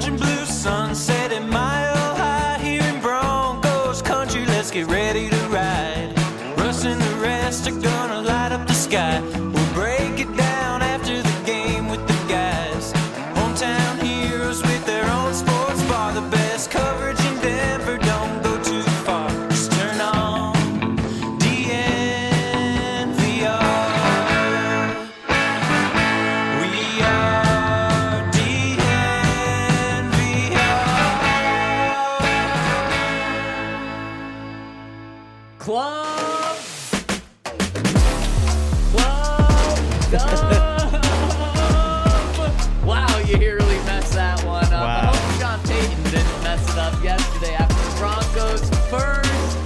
orange and blue sunset at Mile High here in Broncos country. Let's get ready to ride. Russ and the rest are gonna light up the sky. We'll break it down after the game with the guys. Hometown heroes with their own sports bar. The best coverage in Denver, don't go too far. Just turn on DNVR. We are DNVR. Club Dub. Wow, you really messed that one up. Wow. I hope Sean Payton didn't mess it up yesterday after the Broncos' first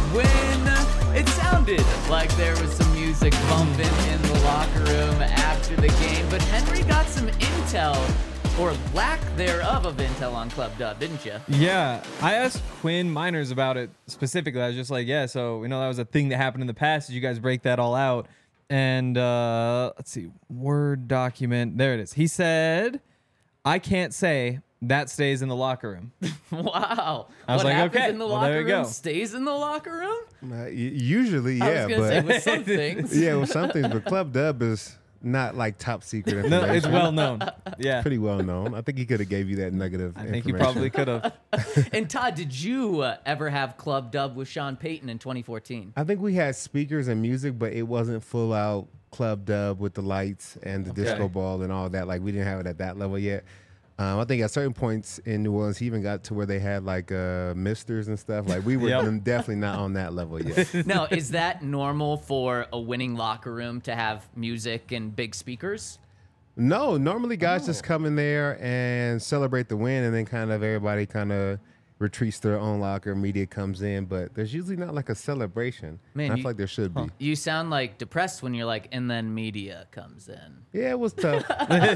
win. It sounded like there was some music bumping in the locker room after the game, but Henry got some intel, or lack thereof of intel on Club Dub, didn't you? Yeah, I asked Quinn Miners about it specifically. I was just like, yeah, so we know that was a thing that happened in the past. Did you guys break that all out? And let's see, Word document. There it is. He said, I can't say that stays in the locker room. Wow. I was what like, happens okay, in the well, locker there you room go. stays in the locker room? Usually, I yeah, was going to say, but with some things. yeah, with some things, but Club Dub is not like top secret No, information. it's well known. Yeah, Pretty well known. I think he could have gave you that nugget of I think he information. probably could have. And Todd, did you ever have Club Dub with Sean Payton in 2014? I think we had speakers and music, but it wasn't full out Club Dub with the lights and the disco ball and all that. Like, we didn't have it at that level yet. I think at certain points in New Orleans, he even got to where they had like misters and stuff. Like, we were Yep. definitely not on that level yet. Now, is that normal for a winning locker room to have music and big speakers? No, normally guys just come in there and celebrate the win, and then kind of everybody kind of retreats to their own locker. Media comes in, but there's usually not like a celebration. Man, I you- feel like there should be. You sound like depressed when you're like, and then media comes in. Yeah, it was tough.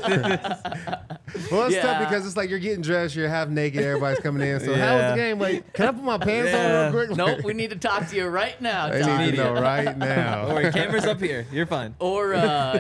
Well, it's Yeah. tough because it's like you're getting dressed, you're half naked, everybody's coming in. So how was the game? Like, can I put my pants on real quick? Nope, we need to talk to you right now, I Todd. need to know right now. Don't worry, camera's up here. You're fine. Or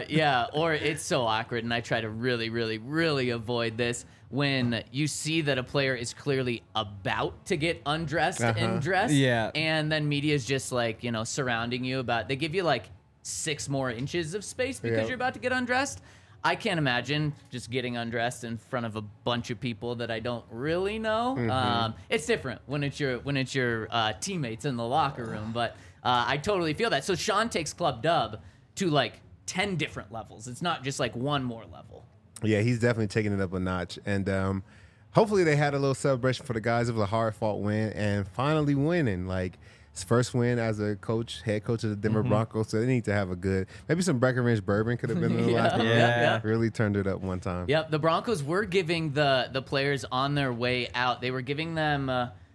or it's so awkward, and I try to really, really, really avoid this when you see that a player is clearly about to get undressed and dressed, Yeah. and then media is just like, surrounding you they give you like 6 more inches of space because Yep. you're about to get undressed. I can't imagine just getting undressed in front of a bunch of people that I don't really know. It's different when it's your teammates in the locker room, but I totally feel that. So Sean takes Club Dub to like 10 different levels. It's not just like one more level. Yeah, he's definitely taking it up a notch. And hopefully they had a little celebration for the guys. It was a hard-fought win and finally winning. Like, his first win as a coach, head coach of the Denver Broncos. So they need to have a good, maybe some Breckenridge bourbon could have been in the last one. Yeah. Really turned it up one time. Yep, the Broncos were giving the players on their way out. They were giving them,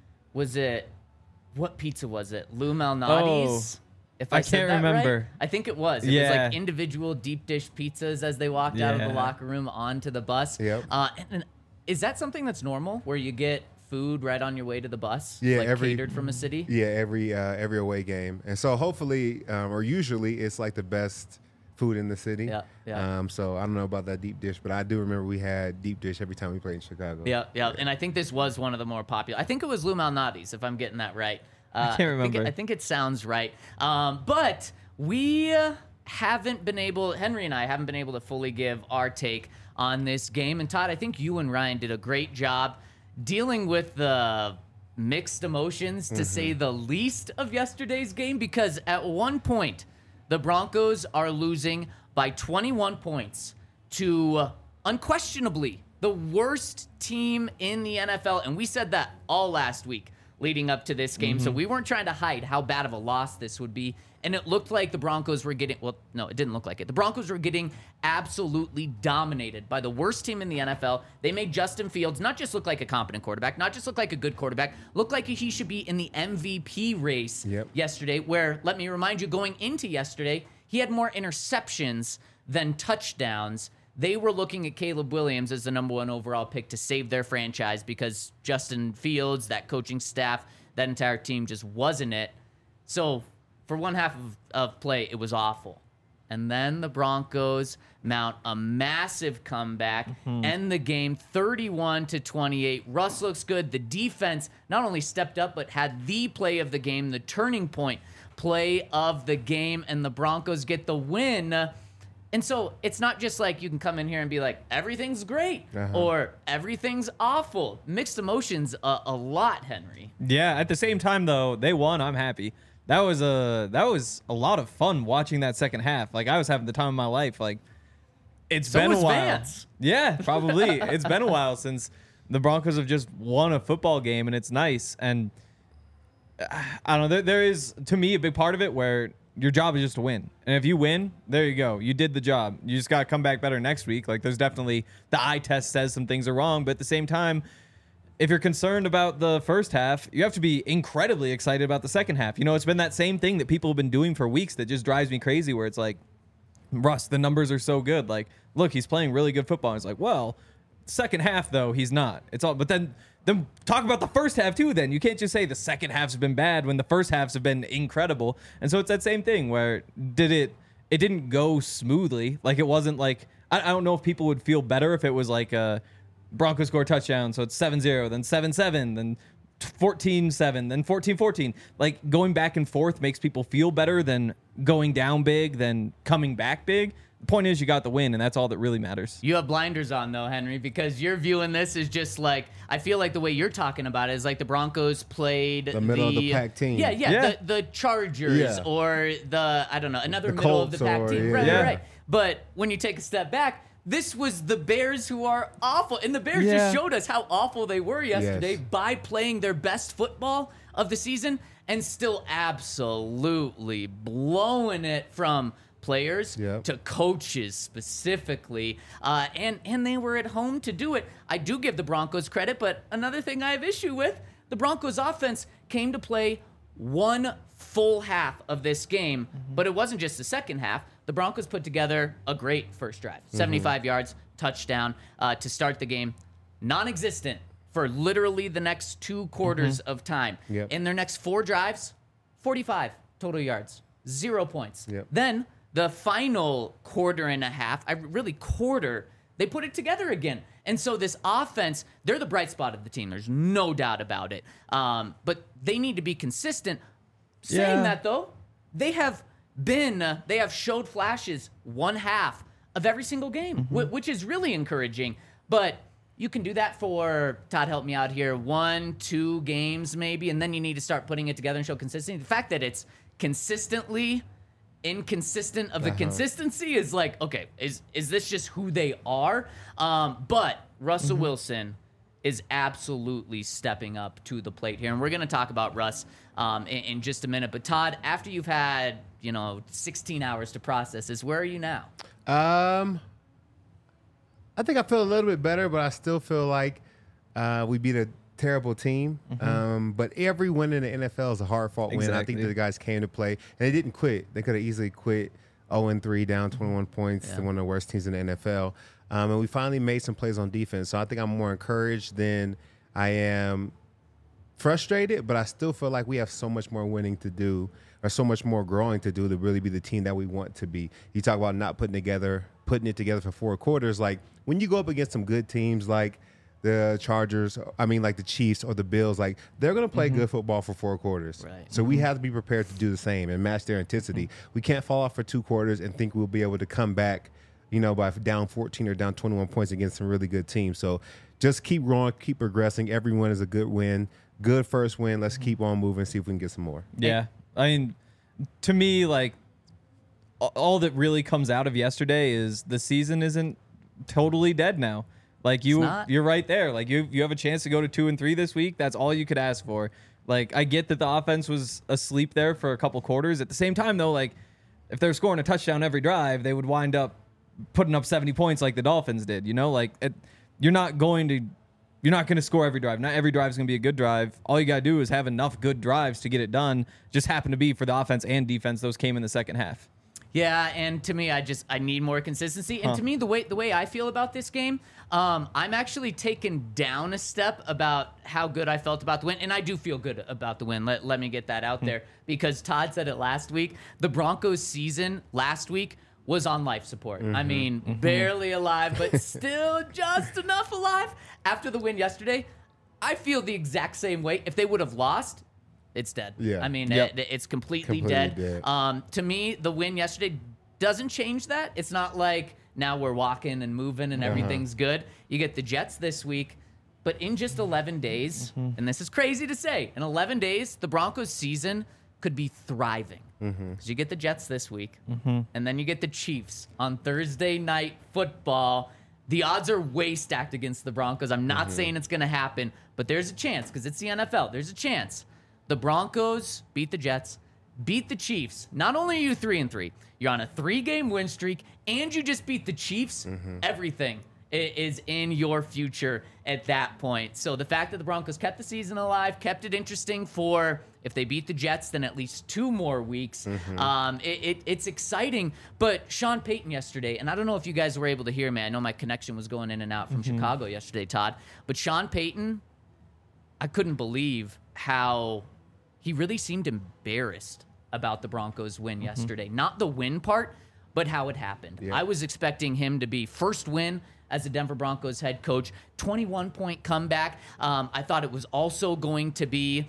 what pizza was it? Lou Malnati's? If I said can't that right? remember. I think it was. It was Yeah. like individual deep dish pizzas as they walked out of the Yeah. locker room onto the bus. Yep. And is that something that's normal, where you get food right on your way to the bus? Yeah, like catered from a city? Yeah, every away game. And so hopefully, or usually, it's like the best food in the city. Yeah, yeah. So I don't know about that deep dish, but I do remember we had deep dish every time we played in Chicago. Yeah, yeah. And I think this was one of the more popular. I think it was Lou Malnati's, if I'm getting that right. I can't remember. I think it sounds right. But we haven't been able, Henry and I haven't been able to fully give our take on this game. And Todd, I think you and Ryan did a great job dealing with the mixed emotions, to say the least, of yesterday's game, because at one point, the Broncos are losing by 21 points to unquestionably the worst team in the NFL. And we said that all last week leading up to this game. So we weren't trying to hide how bad of a loss this would be. And it looked like the Broncos were getting, well, no, it didn't look like it. The Broncos were getting absolutely dominated by the worst team in the NFL. They made Justin Fields not just look like a competent quarterback, not just look like a good quarterback, look like he should be in the MVP race yesterday, where, let me remind you, going into yesterday, he had more interceptions than touchdowns. They were looking at Caleb Williams as the number 1 overall pick to save their franchise because Justin Fields, that coaching staff, that entire team just wasn't it. So for one half of play, it was awful. And then the Broncos mount a massive comeback, end the game 31-28. Russ looks good. The defense not only stepped up, but had the play of the game, the turning point play of the game, and the Broncos get the win. And so it's not just like you can come in here and be like, everything's great or everything's awful. Mixed emotions a lot, Henry. Yeah, at the same time though, they won. I'm happy. That was a lot of fun watching that second half. Like I was having the time of my life. Like it's been a while. Vance. Yeah, probably. It's been a while since the Broncos have just won a football game, and it's nice. And I don't know. There is, to me, a big part of it where your job is just to win. And if you win, there you go. You did the job. You just got to come back better next week. Like there's definitely the eye test says some things are wrong, but at the same time, if you're concerned about the first half, you have to be incredibly excited about the second half. You know, it's been that same thing that people have been doing for weeks that just drives me crazy, where it's like, Russ, the numbers are so good. Like, look, he's playing really good football. And it's like, well, second half though, he's not. It's all, but then talk about the first half too. Then you can't just say the second halves have been bad when the first halves have been incredible. And so it's that same thing where it didn't go smoothly. Like it wasn't like, I don't know if people would feel better if it was like a Broncos score a touchdown, so it's 7-0, then 7-7, then 14-7, then 14-14. Like going back and forth makes people feel better than going down big, than coming back big. The point is you got the win, and that's all that really matters. You have blinders on, though, Henry, because you're viewing this as just like, I feel like the way you're talking about it is like the Broncos played the middle of the pack team. Yeah. The Chargers or the, I don't know, another middle Colts of the pack team. yeah. Right. But when you take a step back, this was the Bears who are awful. And the Bears just showed us how awful they were yesterday by playing their best football of the season and still absolutely blowing it from players to coaches specifically. And they were at home to do it. I do give the Broncos credit, but another thing I have issue with, the Broncos offense came to play one full half of this game, but it wasn't just the second half. The Broncos put together a great first drive, 75 yards, touchdown to start the game, non-existent for literally the next 2 quarters of time. In their next 4 drives, 45 total yards, 0 points. Then the final quarter and a half, they put it together again. And so this offense, they're the bright spot of the team. There's no doubt about it. But they need to be consistent. Saying that, though, they have showed flashes one half of every single game, which is really encouraging. But you can do that for, Todd, help me out here, 1-2 games maybe, and then you need to start putting it together and show consistency. The fact that it's consistently inconsistent of the consistency is like, okay, is this just who they are? But Russell Wilson is absolutely stepping up to the plate here. And we're going to talk about Russ in just a minute. But Todd, after you've had, 16 hours to process this, where are you now? I think I feel a little bit better, but I still feel like we beat a terrible team. But every win in the NFL is a hard-fought win. I think that the guys came to play, and they didn't quit. They could have easily quit 0-3, down 21 points to one of the worst teams in the NFL. And we finally made some plays on defense. So I think I'm more encouraged than I am frustrated, but I still feel like we have so much more winning to do, or so much more growing to do to really be the team that we want to be. You talk about not putting it together for 4 quarters. Like when you go up against some good teams like the Chargers, like the Chiefs or the Bills, like they're going to play good football for 4 quarters. Right. So we have to be prepared to do the same and match their intensity. We can't fall off for 2 quarters and think we'll be able to come back, by down 14 or down 21 points against some really good teams. So just keep growing, keep progressing. Every win is a good win. Good first win. Let's keep on moving, see if we can get some more. Yeah. To me, like, all that really comes out of yesterday is the season isn't totally dead now. Like, you're right there. Like, you have a chance to go to 2-3 this week. That's all you could ask for. Like, I get that the offense was asleep there for a couple quarters. At the same time, though, like, if they're scoring a touchdown every drive, they would wind up putting up 70 points like the Dolphins did. You're not going to score every drive. Not every drive is going to be a good drive. All you got to do is have enough good drives to get it done. Just happen to be for the offense and defense. Those came in the second half. Yeah, and to me, I need more consistency. And to me, the way I feel about this game, I'm actually taken down a step about how good I felt about the win. And I do feel good about the win. Let me get that out there. Because Todd said it last week. The Broncos season last week was on life support. I mean, barely alive, but still just enough alive. After the win yesterday, I feel the exact same way. If they would have lost, it's dead. Yeah. I mean, Yep. it's completely Completely dead. dead. To me, the win yesterday doesn't change that. It's not like now we're walking and moving and everything's good. You get the Jets this week, but in just 11 days, and this is crazy to say, in 11 days, the Broncos season could be thriving. Because you get the Jets this week, and then you get the Chiefs on Thursday night football. The odds are way stacked against the Broncos. I'm not saying it's going to happen, but there's a chance because it's the NFL. There's a chance. The Broncos beat the Jets, beat the Chiefs. Not only are you 3-3, you're on a 3-game win streak, and you just beat the Chiefs. Everything is in your future at that point. So the fact that the Broncos kept the season alive, kept it interesting for, if they beat the Jets, then at least 2 more weeks. It's exciting. But Sean Payton yesterday, and I don't know if you guys were able to hear me. I know my connection was going in and out from Chicago yesterday, Todd. But Sean Payton, I couldn't believe how he really seemed embarrassed about the Broncos win yesterday. Not the win part, but how it happened. Yeah. I was expecting him to be first win as the Denver Broncos head coach, 21-point comeback. I thought it was also going to be,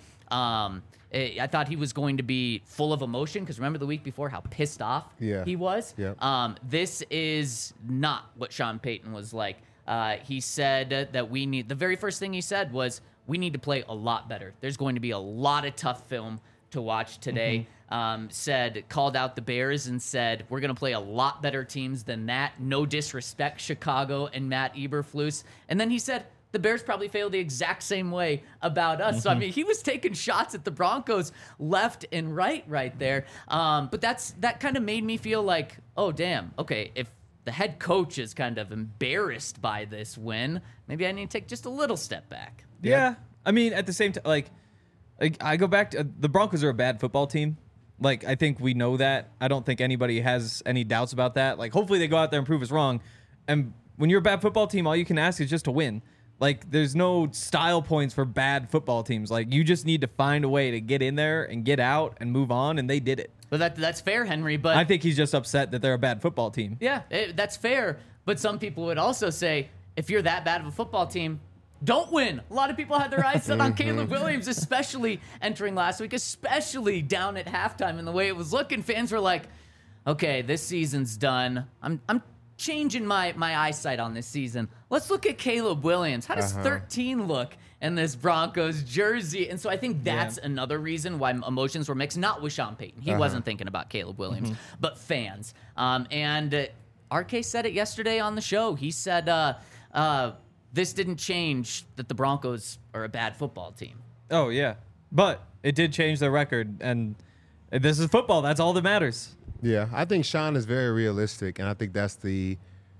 I thought he was going to be full of emotion, because remember the week before how pissed off he was? Yeah. This is not what Sean Payton was like. He said that the very first thing he said was, we need to play a lot better. There's going to be a lot of tough film to watch today. Called out the Bears and said, we're going to play a lot better teams than that. No disrespect, Chicago and Matt Eberflus. And then he said, the Bears probably failed the exact same way about us. So, I mean, he was taking shots at the Broncos left and right there. But that kind of made me feel like, oh, damn, okay, if the head coach is kind of embarrassed by this win, maybe I need to take just a little step back. Yeah. I mean, at the same time, like I go back to the Broncos are a bad football team. Like, I think we know that. I don't think anybody has any doubts about that. Like, hopefully they go out there and prove us wrong. And when you're a bad football team, all you can ask is just to win. Like, there's no style points for bad football teams. Like, you just need to find a way to get in there and get out and move on, and they did it. But that's fair, Henry. But I think he's just upset that they're a bad football team. yeah, that's fair. But some people would also say, if you're that bad of a football team, don't win. A lot of people had their eyes set on Caleb Williams, especially entering last week, especially down at halftime. And the way it was looking, fans were like, okay, this season's done. I'm changing my eyesight on this season. Let's look at Caleb Williams. How does 13 look in this Broncos jersey? And so I think that's another reason why emotions were mixed. Not with Sean Payton. He wasn't thinking about Caleb Williams, but fans. And RK said it yesterday on the show. He said, this didn't change that the Broncos are a bad football team. Oh, yeah. But it did change their record, and this is football. That's all that matters. Yeah, I think Sean is very realistic, and I think that's the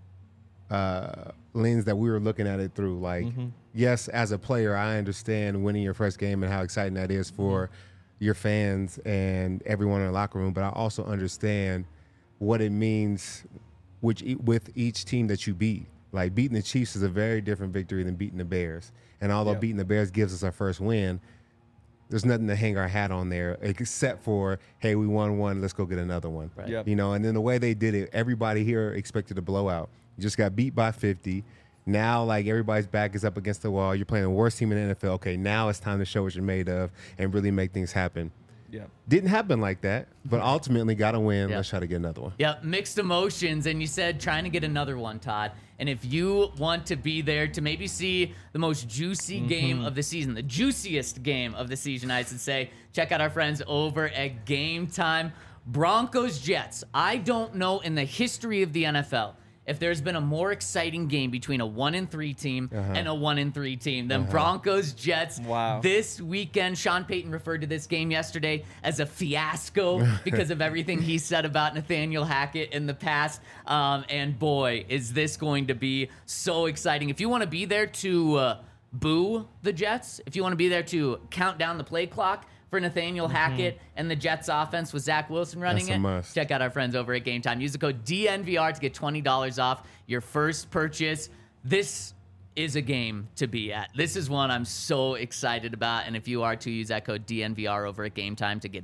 lens that we were looking at it through. Like, yes, as a player, I understand winning your first game and how exciting that is for your fans and everyone in the locker room, but I also understand what it means with each team that you beat. Like, beating the Chiefs is a very different victory than beating the Bears. And although beating the Bears gives us our first win, there's nothing to hang our hat on there except for, hey, we won one, let's go get another one. Right. Yep. You know, and then the way they did it, everybody here expected a blowout. You just got beat by 50. Now, like, everybody's back is up against the wall. You're playing the worst team in the NFL. Okay, now it's time to show what you're made of and really make things happen. Yeah. Didn't happen like that, but ultimately got a win. Yeah. Let's try to get another one. Yep, mixed emotions. And you said trying to get another one, Todd. And if you want to be there to maybe see the most juicy game of the season, the juiciest game of the season, I should say, check out our friends over at Game Time. Broncos Jets. I don't know in the history of the NFL if there's been a more exciting game between a 1-3 team and a 1-3 team than Broncos Jets. Wow. This weekend, Sean Payton referred to this game yesterday as a fiasco because of everything he said about Nathaniel Hackett in the past. And boy, is this going to be so exciting. If you want to be there to boo the Jets, if you want to be there to count down the play clock for Nathaniel Hackett and the Jets offense with Zach Wilson running That's a it, must. check out our friends over at Game Time. Use the code DNVR to get $20 off your first purchase. This is a game to be at. This is one I'm so excited about. And if you are too, use that code DNVR over at Game Time to get in.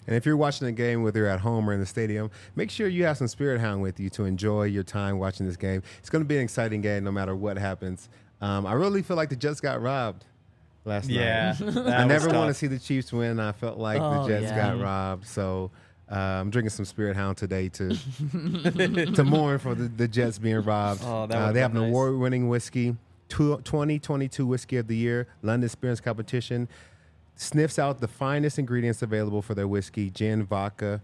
And if you're watching the game, whether you're at home or in the stadium, make sure you have some Spirit Hound with you to enjoy your time watching this game. It's going to be an exciting game no matter what happens. I really feel like the Jets got robbed last night. I never want to see the Chiefs win. I felt like the Jets got robbed. So I'm drinking some Spirit Hound today to to mourn for the Jets being robbed. They have an award-winning whiskey, 2022 Whiskey of the Year, London Spirits Competition. Sniffs out the finest ingredients available for their whiskey, gin, vodka,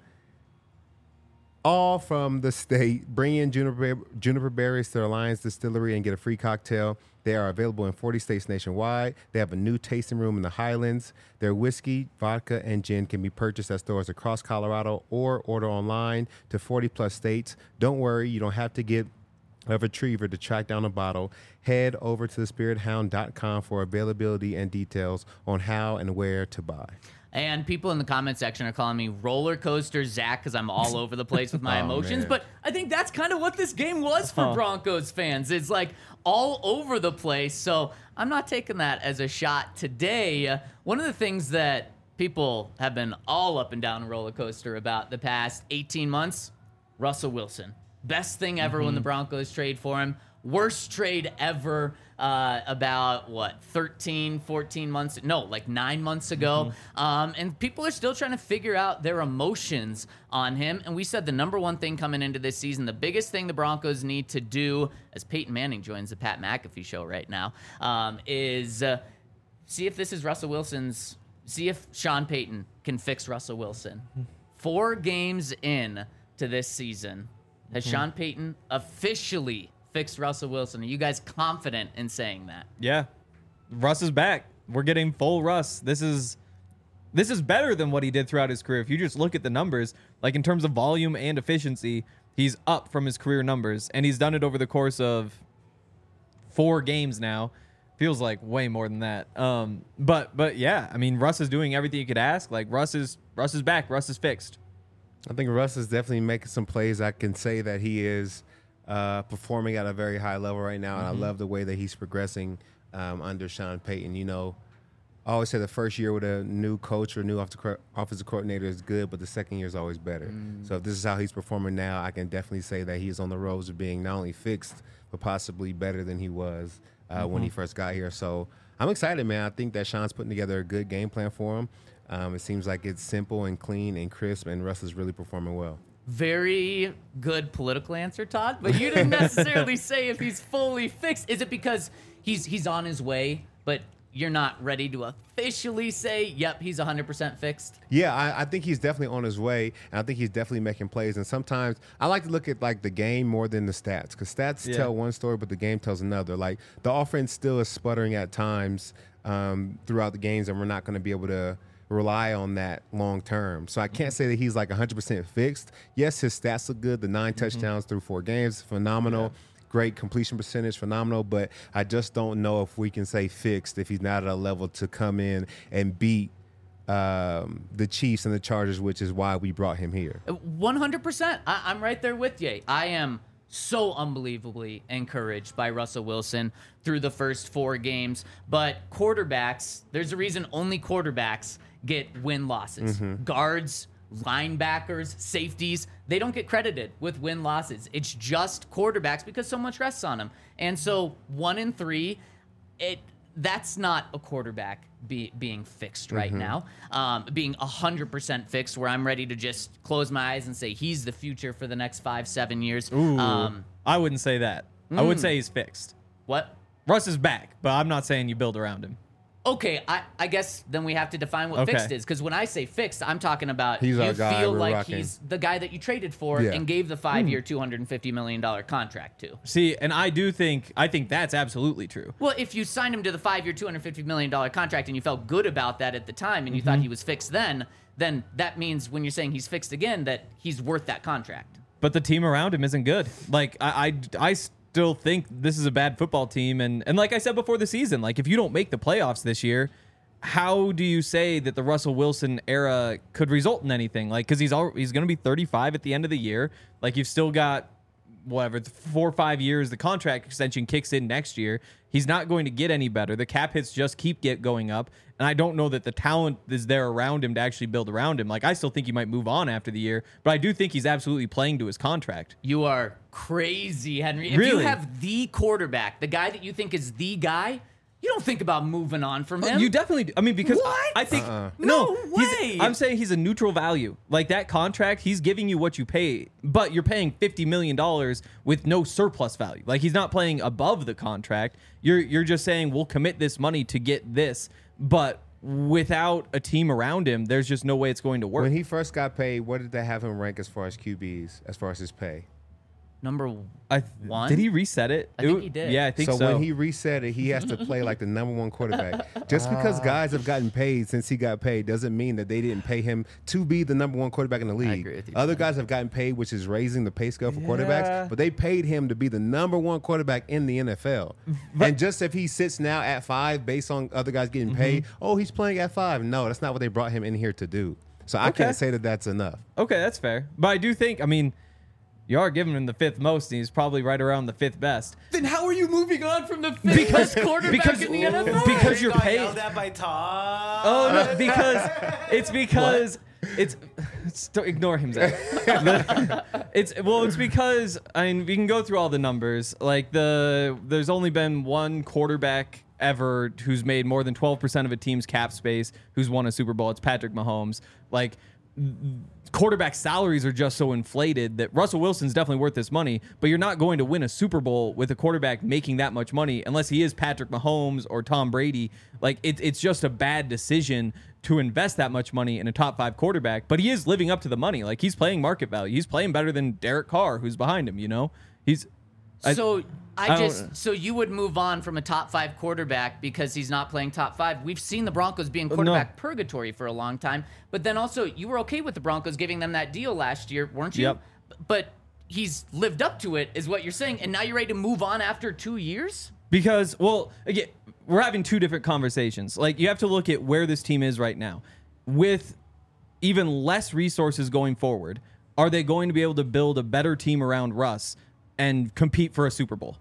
all from the state. Bring in juniper berries to their Alliance Distillery and get a free cocktail. They are available in 40 states nationwide. They have a new tasting room in the Highlands. Their whiskey, vodka, and gin can be purchased at stores across Colorado or order online to 40-plus states. Don't worry, you don't have to get a retriever to track down a bottle. Head over to thespirithound.com for availability and details on how and where to buy. And people in the comment section are calling me roller coaster Zach because I'm all over the place with my emotions. Man. But I think that's kind of what this game was for Broncos fans. It's like all over the place. So I'm not taking that as a shot today. One of the things that people have been all up and down a roller coaster about the past 18 months, Russell Wilson. Best thing ever when the Broncos trade for him. Worst trade ever about, 14 months? No, like 9 months ago. And people are still trying to figure out their emotions on him. And we said the number one thing coming into this season, the biggest thing the Broncos need to do, as Peyton Manning joins the Pat McAfee show right now, is see if this is Russell Wilson's, see if Sean Payton can fix Russell Wilson. 4 games in to this season, has Sean Payton officially fixed Russell Wilson? Are you guys confident in saying that? Yeah. Russ is back. We're getting full Russ. This is better than what he did throughout his career. If you just look at the numbers, like in terms of volume and efficiency, he's up from his career numbers, and he's done it over the course of 4 games now. Feels like way more than that. But yeah, I mean, Russ is doing everything you could ask. Like Russ is back. Russ is fixed. I think Russ is definitely making some plays. I can say that he is performing at a very high level right now, and I love the way that he's progressing under Sean Payton. You know, I always say the first year with a new coach or new offensive coordinator is good, but the second year is always better. So if this is how he's performing now, I can definitely say that he's on the road to being not only fixed, but possibly better than he was when he first got here. So I'm excited, man. I think that Sean's putting together a good game plan for him. It seems like it's simple and clean and crisp, and Russ is really performing well. Very good political answer, Todd, but you didn't necessarily say if he's fully fixed. Is it because he's on his way, but you're not ready to officially say, yep, he's 100% fixed? Yeah, I think he's definitely on his way, and I think he's definitely making plays. And sometimes I like to look at like the game more than the stats, because stats tell one story, but the game tells another. Like the offense still is sputtering at times throughout the games, and we're not going to be able to rely on that long term. So I can't say that he's like 100% fixed. Yes, his stats look good. The 9 touchdowns through 4 games, phenomenal. Yeah. Great completion percentage, phenomenal. But I just don't know if we can say fixed if he's not at a level to come in and beat the Chiefs and the Chargers, which is why we brought him here. 100%. I'm right there with you. I am so unbelievably encouraged by Russell Wilson through the first 4 games. But quarterbacks, there's a reason only quarterbacks get win-losses. Guards, linebackers, safeties, they don't get credited with win-losses. It's just quarterbacks because so much rests on them. And so 1 and 3, that's not a quarterback being fixed right now. Being 100% fixed, where I'm ready to just close my eyes and say he's the future for the next 5-7 years. I wouldn't say that. I would say he's fixed. What? Russ is back, but I'm not saying you build around him. Okay, I guess then we have to define what fixed is, because when I say fixed, I'm talking about he's you guy, feel like rocking. He's the guy that you traded for and gave the 5-year, $250 million contract to. See, and I think that's absolutely true. Well, if you signed him to the 5-year, $250 million contract and you felt good about that at the time and you thought he was fixed then that means when you're saying he's fixed again, that he's worth that contract. But the team around him isn't good. Like, I still think this is a bad football team. And like I said before the season, like if you don't make the playoffs this year, how do you say that the Russell Wilson era could result in anything? Like, because he's going to be 35 at the end of the year. Like, you've still got, 4 or 5 years. The contract extension kicks in next year. He's not going to get any better. The cap hits just keep going up. And I don't know that the talent is there around him to actually build around him. Like, I still think he might move on after the year, but I do think he's absolutely playing to his contract. You are crazy, Henry. If Really? you have the quarterback, the guy that you think is the guy, you don't think about moving on from him. You definitely do. I mean, because What? I think No he's- way. I'm saying he's a neutral value. Like, that contract, he's giving you what you pay, but you're paying $50 million with no surplus value. Like, he's not playing above the contract. You're just saying we'll commit this money to get this, but without a team around him, there's just no way it's going to work. When he first got paid, what did they have him rank as far as QBs, as far as his pay? Number one? Did he reset it? I think he did. Yeah, I think so. When he reset it, he has to play like the number one quarterback. Just because guys have gotten paid since he got paid doesn't mean that they didn't pay him to be the number one quarterback in the league. agree with you, Other man. guys have gotten paid, which is raising the pay scale for Yeah. quarterbacks, but they paid him to be the number one quarterback in the NFL. And just if he sits now at 5 based on other guys getting paid, oh, he's playing at 5. No, that's not what they brought him in here to do. So I Okay. can't say that that's enough. Okay, that's fair. But I do think, I mean, you are giving him the 5th most, and he's probably right around the 5th best. Then how are you moving on from the fifth best quarterback in the NFL? because you're Got paid. yelled at by Todd. Oh no, because ignore him, Zach. It's because I mean we can go through all the numbers. Like there's only been one quarterback ever who's made more than 12% of a team's cap space who's won a Super Bowl. It's Patrick Mahomes. Like, quarterback salaries are just so inflated that Russell Wilson's definitely worth this money, but you're not going to win a Super Bowl with a quarterback making that much money unless he is Patrick Mahomes or Tom Brady. Like, it's just a bad decision to invest that much money in a top 5 quarterback, but he is living up to the money. Like, he's playing market value. He's playing better than Derek Carr, who's behind him, you know? So you would move on from a top 5 quarterback because he's not playing top 5. We've seen the Broncos be in quarterback purgatory for a long time, but then also you were okay with the Broncos giving them that deal last year, weren't you? Yep. But he's lived up to it, is what you're saying, and now you're ready to move on after 2 years? Because, well, again, we're having two different conversations. Like, you have to look at where this team is right now. With even less resources going forward, are they going to be able to build a better team around Russ and compete for a Super Bowl?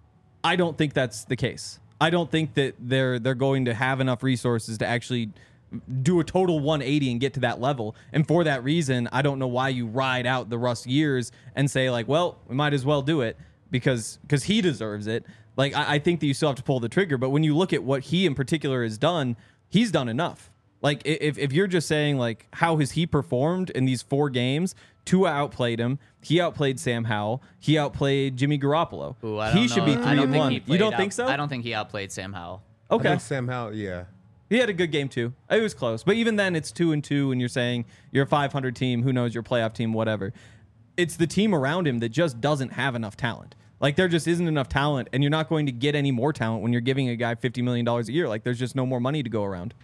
I don't think that's the case. I don't think that they're going to have enough resources to actually do a total 180 and get to that level. And for that reason, I don't know why you ride out the Russ years and say, like, well, we might as well do it because he deserves it. Like, I think that you still have to pull the trigger. But when you look at what he in particular has done, he's done enough. Like, if you're just saying, like, how has he performed in these 4 games? Tua outplayed him. He outplayed Sam Howell. He outplayed Jimmy Garoppolo. Ooh, I don't He know. should be I don't think 3-1. he You played don't think so? I don't think he outplayed Sam Howell. I Okay. think Sam Howell, yeah. He had a good game too. It was close. But even then, it's 2-2, and you're saying you're a 500 team. Who knows, your playoff team, whatever. It's the team around him that just doesn't have enough talent. Like, there just isn't enough talent, and you're not going to get any more talent when you're giving a guy $50 million a year. Like, there's just no more money to go around.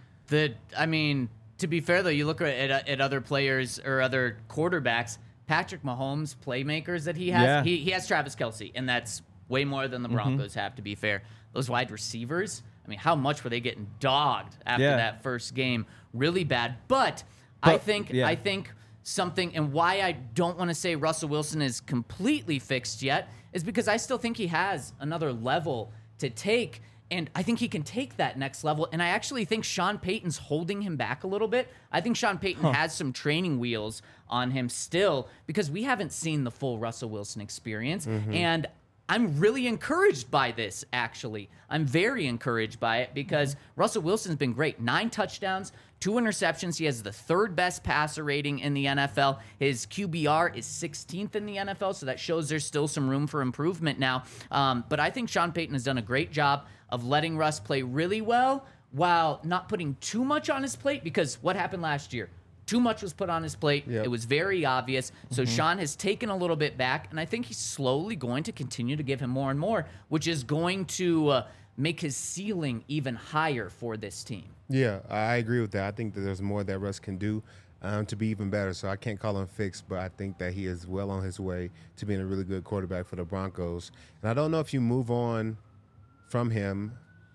I mean, to be fair, though, you look at other players or other quarterbacks, Patrick Mahomes' playmakers that he has, Yeah. he has Travis Kelce, and that's way more than the Broncos have, to be fair. Those wide receivers, I mean, how much were they getting dogged after Yeah. that first game? Really bad. But I think something, and why I don't want to say Russell Wilson is completely fixed yet, is because I still think he has another level to take. And I think he can take that next level. And I actually think Sean Payton's holding him back a little bit. I think Sean Payton has some training wheels on him still because we haven't seen the full Russell Wilson experience. And I'm really encouraged by this, actually. I'm very encouraged by it because Russell Wilson's been great. 9 touchdowns, 2 interceptions. He has the 3rd best passer rating in the NFL. His QBR is 16th in the NFL, so that shows there's still some room for improvement now. But I think Sean Payton has done a great job of letting Russ play really well while not putting too much on his plate, because what happened last year? Too much was put on his plate. Yep. It was very obvious. So Sean has taken a little bit back, and I think he's slowly going to continue to give him more and more, which is going to make his ceiling even higher for this team. Yeah, I agree with that. I think that there's more that Russ can do to be even better. So I can't call him fixed, but I think that he is well on his way to being a really good quarterback for the Broncos. And I don't know if you move on from him,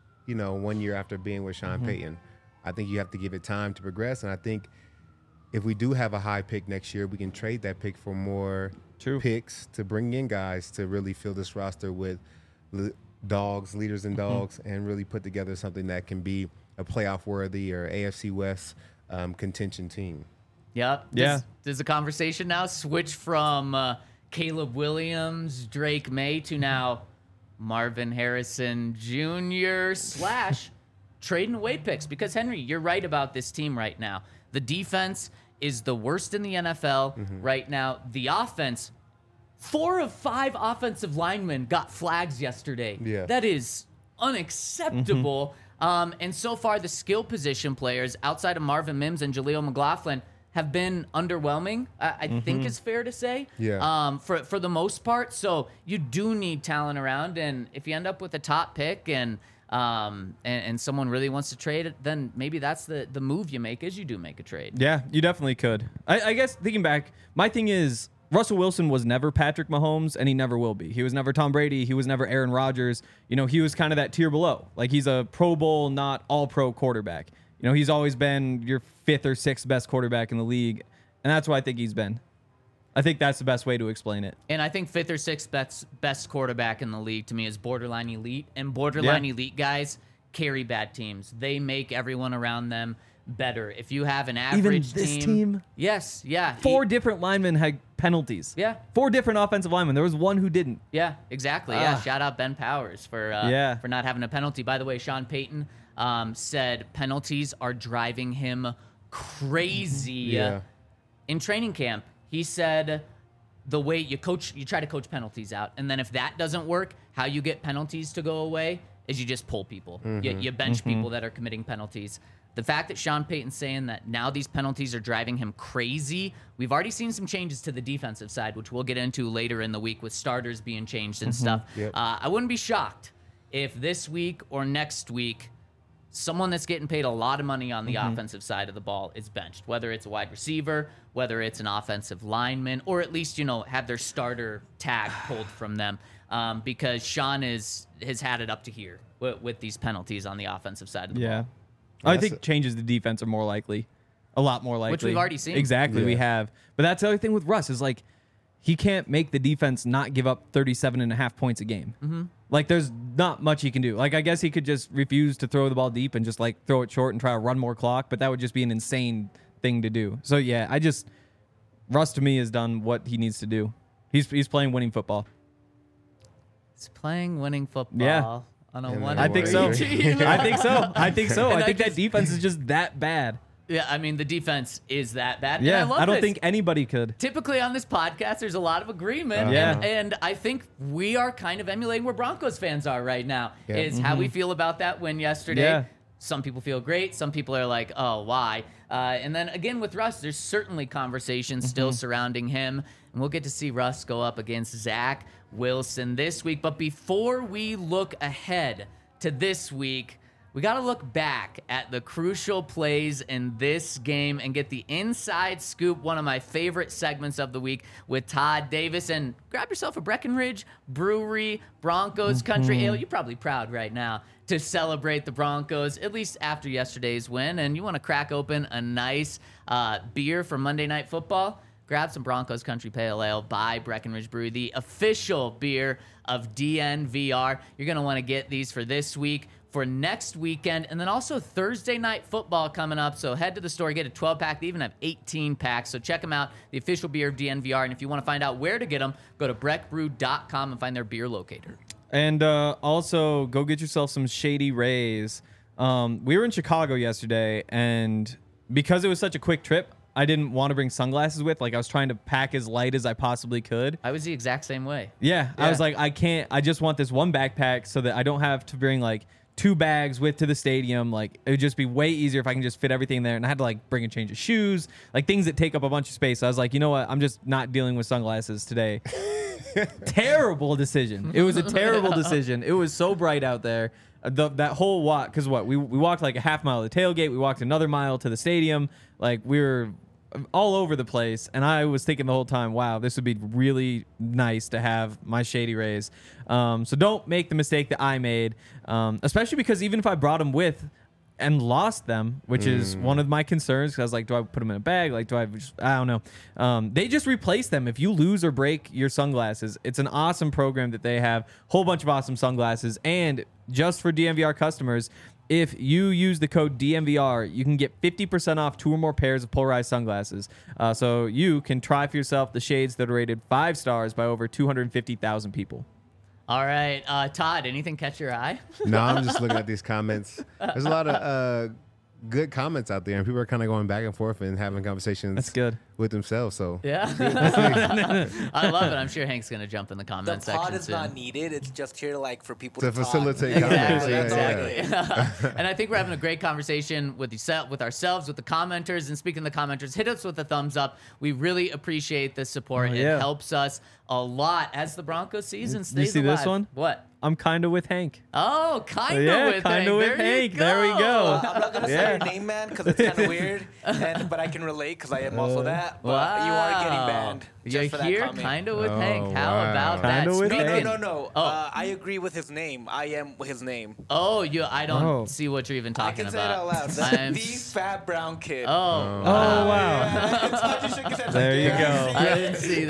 1 year after being with Sean Payton. I think you have to give it time to progress. And I think if we do have a high pick next year, we can trade that pick for more picks to bring in guys to really fill this roster with dogs, leaders and dogs, and really put together something that can be a playoff worthy or AFC West contention team. Yep. Yeah. Does the conversation now switch from Caleb Williams, Drake May to now Marvin Harrison Jr. / trading away picks? Because, Henry, you're right about this team right now. The defense is the worst in the NFL right now. The offense, 4 of 5 offensive linemen got flags yesterday. Yeah. That is unacceptable. And so far, the skill position players outside of Marvin Mims and Jaleel McLaughlin have been underwhelming, I think is fair to say, Yeah. for the most part. So you do need talent around, and if you end up with a top pick and someone really wants to trade it, then maybe that's the move you make, is you do make a trade. Yeah, you definitely could. I guess thinking back, my thing is Russell Wilson was never Patrick Mahomes, and he never will be. He was never Tom Brady. He was never Aaron Rodgers. You know, he was kind of that tier below. Like, he's a Pro Bowl, not all-pro quarterback. You know, he's always been your 5th or 6th best quarterback in the league, and that's what I think he's been. I think that's the best way to explain it. And I think 5th or 6th best quarterback in the league to me is borderline elite, and borderline elite guys carry bad teams. They make everyone around them better. If you have an average this team? Yes, yeah. 4 different linemen had penalties. Yeah. 4 different offensive linemen. There was one who didn't. Yeah, exactly. Yeah, shout out Ben Powers for not having a penalty. By the way, Sean Payton said penalties are driving him crazy in training camp. He said the way you try to coach penalties out, and then if that doesn't work, how you get penalties to go away is you just pull people. You bench people that are committing penalties. The fact that Sean Payton's saying that now these penalties are driving him crazy, we've already seen some changes to the defensive side, which we'll get into later in the week with starters being changed and stuff. Yep. I wouldn't be shocked if this week or next week someone that's getting paid a lot of money on the offensive side of the ball is benched, whether it's a wide receiver, whether it's an offensive lineman, or at least, have their starter tag pulled from them, because Sean has had it up to here with these penalties on the offensive side of the ball. I think changes the defense are more likely, a lot more likely. Which we've already seen. Exactly, we have. But that's the other thing with Russ is, like, he can't make the defense not give up 37.5 points a game. Like, there's not much he can do. Like, I guess he could just refuse to throw the ball deep and just, like, throw it short and try to run more clock, but that would just be an insane thing to do. So, yeah, Russ, to me, has done what he needs to do. He's playing winning football. He's playing winning football. Yeah. On a And one. I think so. team. I think so. I think so. And I think I that defense is just that bad. Yeah, I mean, the defense is that bad. And Yeah, I love I don't this. think anybody could. Typically on this podcast, there's a lot of agreement. Yeah. And I think we are kind of emulating where Broncos fans are right now, Yeah. is how we feel about that win yesterday. Yeah. Some people feel great. Some people are like, oh, why? And then again with Russ, there's certainly conversations still surrounding him. And we'll get to see Russ go up against Zach Wilson this week. But before we look ahead to this week, we got to look back at the crucial plays in this game and get the inside scoop, one of my favorite segments of the week with Todd Davis. And grab yourself a Breckenridge Brewery Broncos Country Ale. You're probably proud right now to celebrate the Broncos, at least after yesterday's win. And you want to crack open a nice beer for Monday Night Football? Grab some Broncos Country Pale Ale by Breckenridge Brewery, the official beer of DNVR. You're going to want to get these for this week, for next weekend, and then also Thursday Night Football coming up. So head to the store, get a 12-pack. They even have 18 packs. So check them out, the official beer of DNVR. And if you want to find out where to get them, go to breckbrew.com and find their beer locator. And also, go get yourself some Shady Rays. We were in Chicago yesterday, and because it was such a quick trip, I didn't want to bring sunglasses with. Like, I was trying to pack as light as I possibly could. I was the exact same way. Yeah, I was like, I just want this one backpack so that I don't have to bring, like, 2 bags with to the stadium. Like, it would just be way easier if I can just fit everything there. And I had to, like, bring a change of shoes, like, things that take up a bunch of space. So I was like, you know what? I'm just not dealing with sunglasses today. Terrible decision. It was a terrible decision. It was so bright out there. That whole walk, because we walked like a half mile to the tailgate. We walked another mile to the stadium. Like, we were all over the place. And I was thinking the whole time, wow, this would be really nice to have my Shady Rays. So don't make the mistake that I made, especially because even if I brought them with, and lost them, which is one of my concerns. Because I was like, do I put them in a bag? Like, do I just, I don't know. They just replace them. If you lose or break your sunglasses, it's an awesome program that they have. Whole bunch of awesome sunglasses. And just for DMVR customers, if you use the code DMVR, you can get 50% off 2 or more pairs of polarized sunglasses. So you can try for yourself the shades that are rated 5 stars by over 250,000 people. All right, Todd, anything catch your eye? No, I'm just looking at these comments. There's a lot of good comments out there, and people are kind of going back and forth and having conversations. That's good. With themselves. So Yeah. I love it. I'm sure Hank's going to jump in the The comment section pod is soon. not needed. It's just here for people to to talk. facilitate comments. Exactly, Yeah, exactly. And I think we're having a great conversation with ourselves, with the commenters. And speaking of the commenters, hit us with a thumbs up. We really appreciate the support. Oh, yeah. It helps us a lot as the Broncos season stays You see alive. this one? What? I'm kind of with Hank. Oh, kind of Yeah, with kinda Hank. with Hank. There we go. I'm not gonna say your name, man, because it's kind of weird. But I can relate because I am also that. But you are getting banned. You're Just for that here, comment. kind of with Oh, Hank. How wow. about that? Kinda with No, Hank. no. Oh. I agree with his name. I am his name. Oh, I don't Oh. see what you're even I talking can say it out about. loud. I'm The fat brown kid. Oh, Oh, wow. Todd just shook his head There you like, go. I didn't see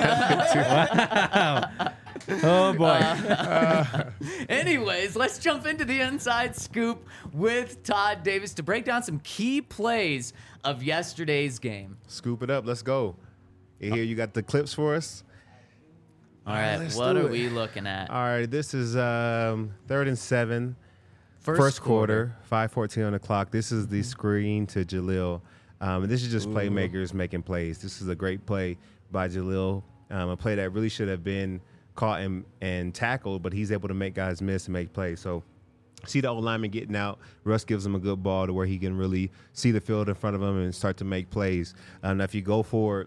that. Oh, boy. Anyways, let's jump into the inside scoop with Todd Davis to break down some key plays of yesterday's game. Scoop it up. Let's go. Here you got the clips for us. All right, let's what do are it. we looking at? All right, this is 3rd and 7. First quarter, 5:14 on the clock. This is the screen to Jaleel. And this is just playmakers making plays. This is a great play by Jaleel, a play that really should have been caught and tackled, but he's able to make guys miss and make plays. So see the old lineman getting out. Russ gives him a good ball to where he can really see the field in front of him and start to make plays. Now, if you go forward,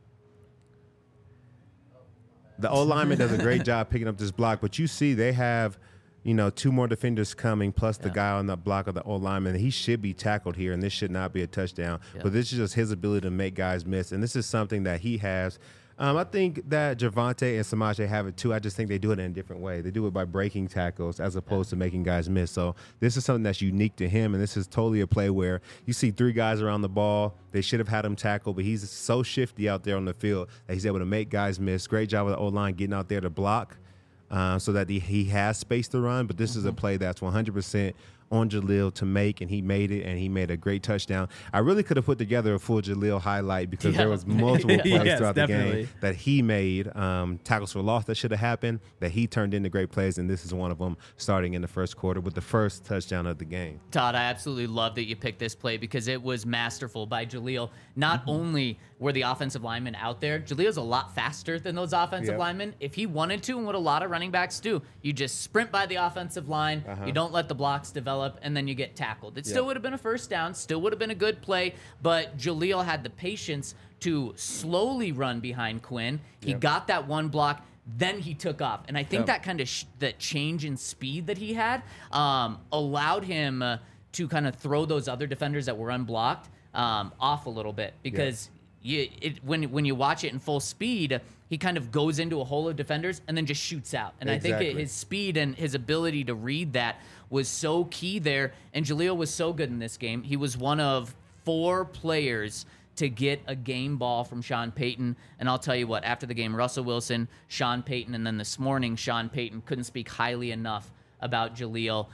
the old lineman does a great job picking up this block, but you see they have, 2 more defenders coming, plus the guy on the block of the old lineman. He should be tackled here, and this should not be a touchdown. Yeah. But this is just his ability to make guys miss, and this is something that he has. I think that Javonte and Samaje have it too. I just think they do it in a different way. They do it by breaking tackles as opposed to making guys miss. So this is something that's unique to him, and this is totally a play where you see 3 guys around the ball. They should have had him tackled, but he's so shifty out there on the field that he's able to make guys miss. Great job with the O-line getting out there to block so that he has space to run. But this is a play that's 100% on Jaleel to make, and he made it, and he made a great touchdown. I really could have put together a full Jaleel highlight because there was multiple plays Yes, throughout definitely. the game that he made, tackles for loss that should have happened, that he turned into great plays, and this is one of them starting in the first quarter with the first touchdown of the game. Todd, I absolutely love that you picked this play because it was masterful by Jaleel. Not only were the offensive linemen out there, Jaleel's a lot faster than those offensive Yep. linemen. If he wanted to, and what a lot of running backs do, you just sprint by the offensive line, you don't let the blocks develop, and then you get tackled. It still would have been a first down, still would have been a good play, but Jaleel had the patience to slowly run behind Quinn. He got that one block, then he took off. And I think that kind of that change in speed that he had allowed him to kind of throw those other defenders that were unblocked off a little bit because when you watch it in full speed, he kind of goes into a hole of defenders and then just shoots out. And I think Exactly. his speed and his ability to read that was so key there. And Jaleel was so good in this game. He was one of 4 players to get a game ball from Sean Payton. And I'll tell you what, after the game, Russell Wilson, Sean Payton, and then this morning, Sean Payton couldn't speak highly enough about Jaleel.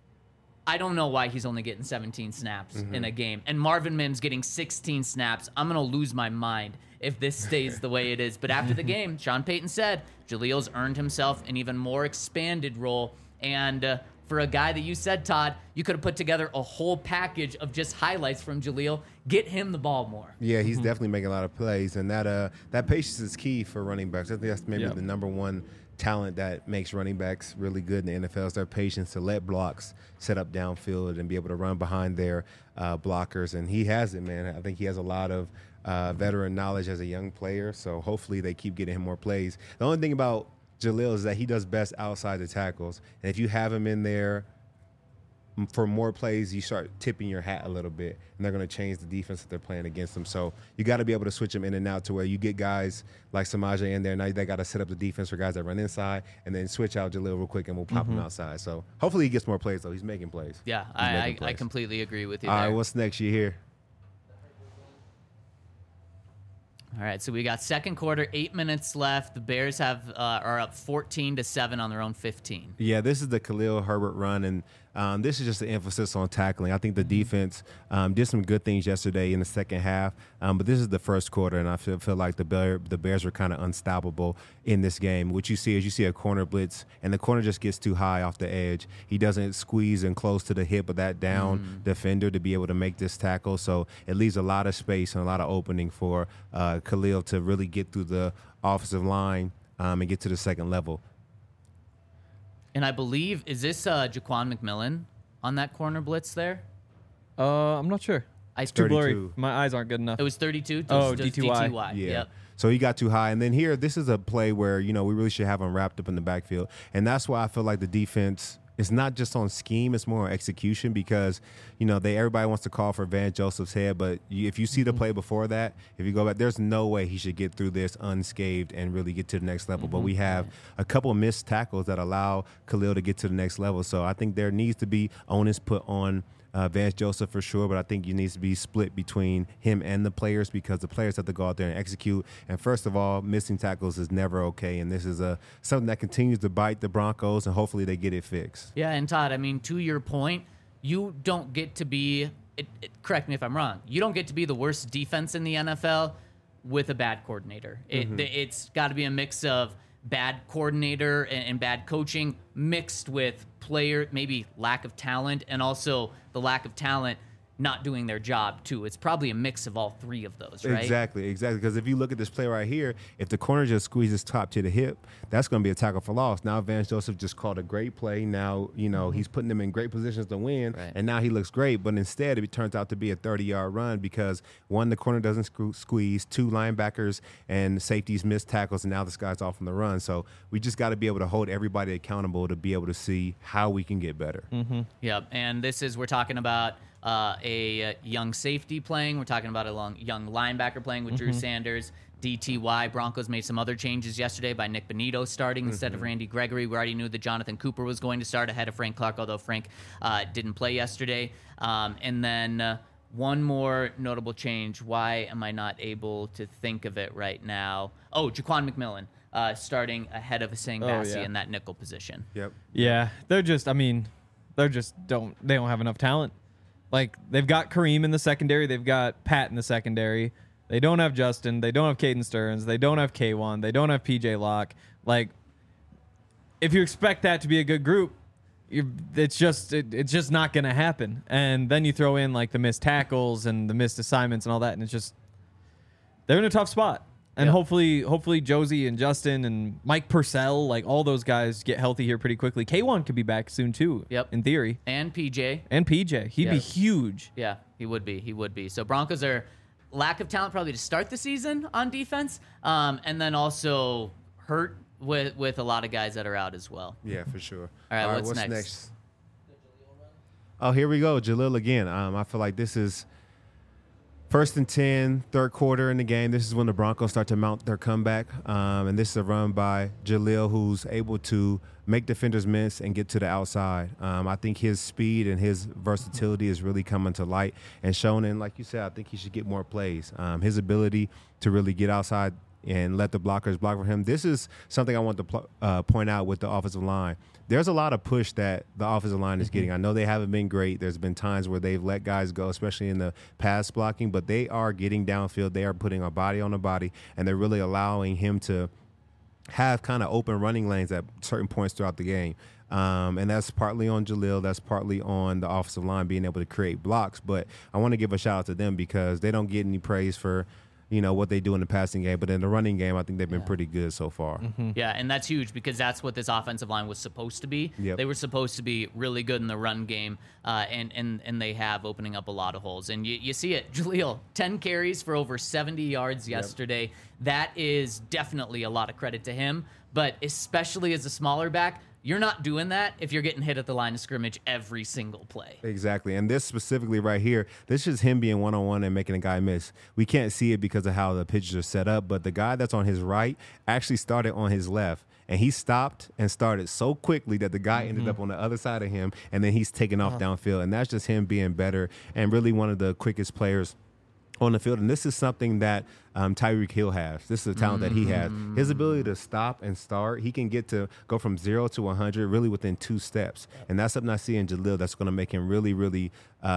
I don't know why he's only getting 17 snaps in a game. And Marvin Mims getting 16 snaps. I'm going to lose my mind if this stays the way it is. But after the game, Sean Payton said Jaleel's earned himself an even more expanded role. And for a guy that you said, Todd, you could have put together a whole package of just highlights from Jaleel. Get him the ball more. Yeah, he's definitely making a lot of plays, and that patience is key for running backs. I think that's maybe the number one talent that makes running backs really good in the NFL is their patience to let blocks set up downfield and be able to run behind their blockers. And he has it, man. I think he has a lot of veteran knowledge as a young player, so hopefully they keep getting him more plays. The only thing about Jaleel is that he does best outside the tackles, and if you have him in there for more plays, you start tipping your hat a little bit, and they're going to change the defense that they're playing against them. So you got to be able to switch them in and out to where you get guys like Samaje in there. Now they got to set up the defense for guys that run inside, and then switch out Jaleel real quick, and we'll pop him outside. So hopefully he gets more plays, though. He's making plays. Yeah, I completely agree with you All there. right, what's next? You here? All right, so we got second quarter, 8 minutes left. The Bears are up 14-7 on their own 15. Yeah, this is the Khalil Herbert run, and this is just an emphasis on tackling. I think the defense did some good things yesterday in the second half, but this is the first quarter, and I feel like the Bears were kind of unstoppable in this game. What you see is you see a corner blitz, and the corner just gets too high off the edge. He doesn't squeeze in close to the hip of that down defender to be able to make this tackle, so it leaves a lot of space and a lot of opening for Khalil to really get through the offensive line and get to the second level. And I believe, is this Jaquan McMillan on that corner blitz there? I'm not sure. It's too 32. blurry. My eyes aren't good enough. It was 32? Oh, Just DTY. DTY. Yeah. Yep. So he got too high. And then here, this is a play where, we really should have him wrapped up in the backfield. And that's why I feel like the defense is not just on scheme, it's more on execution because, everybody wants to call for Van Joseph's head. But if you see the play before that, if you go back, there's no way he should get through this unscathed and really get to the next level. But we have a couple of missed tackles that allow Khalil to get to the next level. So I think there needs to be onus put on Vance Joseph for sure, but I think it needs to be split between him and the players because the players have to go out there and execute. And first of all, missing tackles is never okay, and this is something that continues to bite the Broncos, and hopefully they get it fixed. Yeah, and Todd, I mean, to your point, you don't get to be, correct me if I'm wrong, you don't get to be the worst defense in the NFL with a bad coordinator. It's got to be a mix of bad coordinator and bad coaching mixed with player, maybe lack of talent, and also the lack of talent not doing their job too. It's probably a mix of all three of those, right? Exactly. Because if you look at this play right here, if the corner just squeezes top to the hip, that's going to be a tackle for loss. Now Vance Joseph just called a great play. Now, he's putting them in great positions to win, Right. and now he looks great. But instead, it turns out to be a 30-yard run because, one, the corner doesn't squeeze, two, linebackers and safeties miss tackles, and now this guy's off on the run. So we just got to be able to hold everybody accountable to be able to see how we can get better. Yep, and we're talking about a young safety playing. We're talking about a young linebacker playing with Drew Sanders. DTY. Broncos made some other changes yesterday by Nick Benito starting instead of Randy Gregory. We already knew that Jonathan Cooper was going to start ahead of Frank Clark, although Frank didn't play yesterday. And then one more notable change. Why am I not able to think of it right now? Oh, Jaquan McMillan starting ahead of Hussein Bassi in that nickel position. Yep. Yeah, they don't have enough talent. Like, they've got Kareem in the secondary. They've got Pat in the secondary. They don't have Justin. They don't have Caden Stearns. They don't have K1. They don't have PJ Locke. Like, if you expect that to be a good group, it's just not going to happen. And then you throw in, like, the missed tackles and the missed assignments and all that, and it's just they're in a tough spot. And hopefully Josie and Justin and Mike Purcell, like all those guys, get healthy here pretty quickly. K1 could be back soon too. Yep. In theory. And PJ. He'd be huge. Yeah, he would be. So Broncos are lack of talent probably to start the season on defense, and then also hurt with a lot of guys that are out as well. Yeah, for sure. All right, what's what's next? Oh, here we go. Jalil again. I feel like this is 1st and 10, third quarter in the game. This is when the Broncos start to mount their comeback. And this is a run by Jalil, who's able to make defenders miss and get to the outside. I think his speed and his versatility is really coming to light and shown. And like you said, I think he should get more plays. His ability to really get outside and let the blockers block for him. This is something I want to point out with the offensive line. There's a lot of push that the offensive line is getting. I know they haven't been great. There's been times where they've let guys go, especially in the pass blocking, but they are getting downfield. They are putting a body on a body, and they're really allowing him to have kind of open running lanes at certain points throughout the game. And that's partly on Jalil. That's partly on the offensive line being able to create blocks. But I want to give a shout out to them because they don't get any praise for what they do in the passing game, but in the running game, I think they've been pretty good so far. Yeah, and that's huge because that's what this offensive line was supposed to be. Yep. They were supposed to be really good in the run game, and they have opening up a lot of holes. And you see it. Jaleel, 10 carries for over 70 yards yesterday. That is definitely a lot of credit to him, but especially as a smaller back, You're not doing that if you're getting hit at the line of scrimmage every single play. Exactly. And this specifically right here, this is him being one-on-one and making a guy miss. We can't see it because of how the pitches are set up, but the guy that's on his right actually started on his left. And he stopped and started so quickly that the guy ended up on the other side of him, and then he's taking off downfield. And that's just him being better and really one of the quickest players on the field. And this is something that Tyreek Hill has. This is a talent that he has. His ability to stop and start, he can go from 0 to 100 really within 2 steps. And that's something I see in Jaleel that's going to make him really, really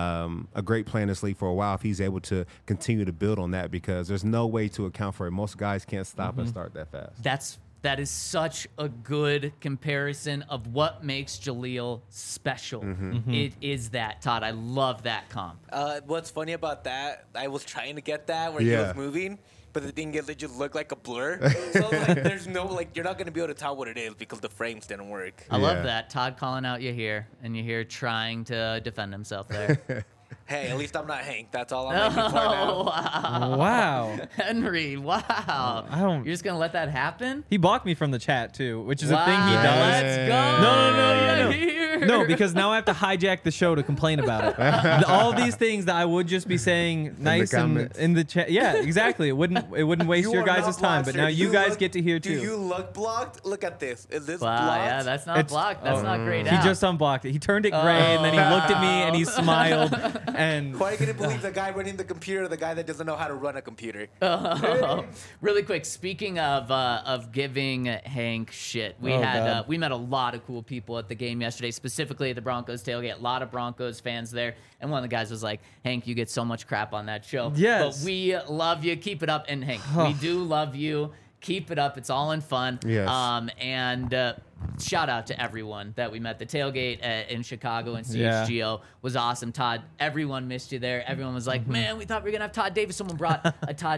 a great player in this league for a while if he's able to continue to build on that, because there's no way to account for it. Most guys can't stop and start that fast. That is such a good comparison of what makes Jaleel special. It is that, Todd. I love that comp. What's funny about that, I was trying to get that where he was moving, but the thing is, it just looked like a blur. So like, there's no, like, you're not going to be able to tell what it is because the frames didn't work. I love that. Todd calling out you here, and you here trying to defend himself there. Hey, at least I'm not Hank. That's all I'm making for now. Wow. Henry, wow. You're just going to let that happen? He blocked me from the chat too, which is a thing he does. Let's go. No. Here. No, because now I have to hijack the show to complain about it. All these things that I would just be saying nice and in the chat. Yeah, exactly. It wouldn't waste your guys' time, but now you guys get to hear too. Do you look blocked? Look at this. Is this Wow, blocked? yeah, that's not blocked. That's not great. He just unblocked it. He turned it gray and then he looked at me and he smiled. And Why are you going to believe the guy running the computer, the guy that doesn't know how to run a computer? Really quick, speaking of giving Hank shit, we met a lot of cool people at the game yesterday, specifically at the Broncos tailgate. A lot of Broncos fans there, and one of the guys was like, "Hank, you get so much crap on that show, yes, but we love you. Keep it up." And Hank, we do love you. Keep it up. It's all in fun. Yes. And shout out to everyone that we met. The tailgate in Chicago and CHGO was awesome. Todd, everyone missed you there. Everyone was like, man, we thought we were going to have Todd Davis. Someone brought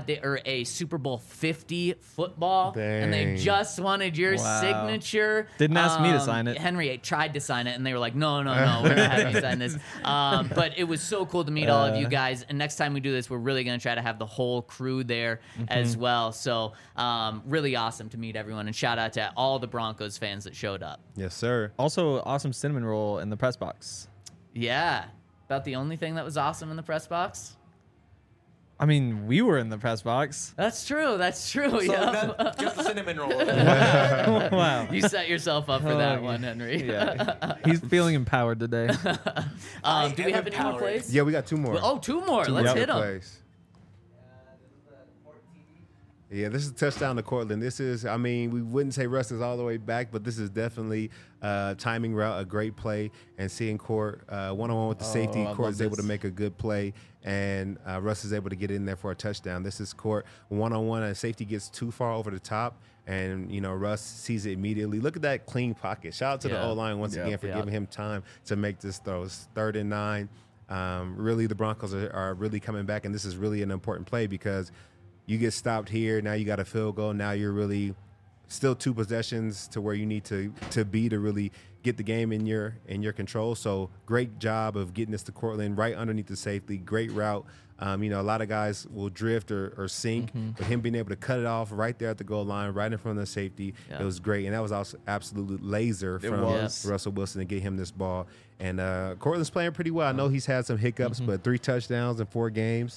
a Super Bowl 50 football, and they just wanted your signature. Didn't ask me to sign it. Henry tried to sign it, and they were like, no, we're not having you sign this. But it was so cool to meet all of you guys. And next time we do this, we're really going to try to have the whole crew there as well. So really awesome to meet everyone. And shout out to all the Broncos fans that showed up. Yes, sir. Also, awesome cinnamon roll in the press box. Yeah. About the only thing that was awesome in the press box? I mean, we were in the press box. That's true. So Yep. just the cinnamon roll. Wow. You set yourself up for that one, Henry. Yeah. He's feeling empowered today. Do we have any more plays? Yeah, we got 2 more. Oh, 2 more. Let's hit them. Plays. Yeah, this is a touchdown to Cortland. This is, I mean, we wouldn't say Russ is all the way back, but this is definitely timing route, a great play, and seeing Court one-on-one with the safety. Court is able to make a good play, and Russ is able to get in there for a touchdown. This is Court one-on-one, and safety gets too far over the top, and, Russ sees it immediately. Look at that clean pocket. Shout out to the O-line once again for giving him time to make this throw. It's 3rd and 9. Really, the Broncos are really coming back, and this is really an important play because you get stopped here. Now you got a field goal. Now you're really still 2 possessions to where you need to be to really get the game in your control. So great job of getting this to Cortland right underneath the safety. Great route. A lot of guys will drift or sink, but him being able to cut it off right there at the goal line, right in front of the safety, it was great. And that was also absolute laser from Russell Wilson to get him this ball. And Cortland's playing pretty well. I know he's had some hiccups, but 3 touchdowns in 4 games.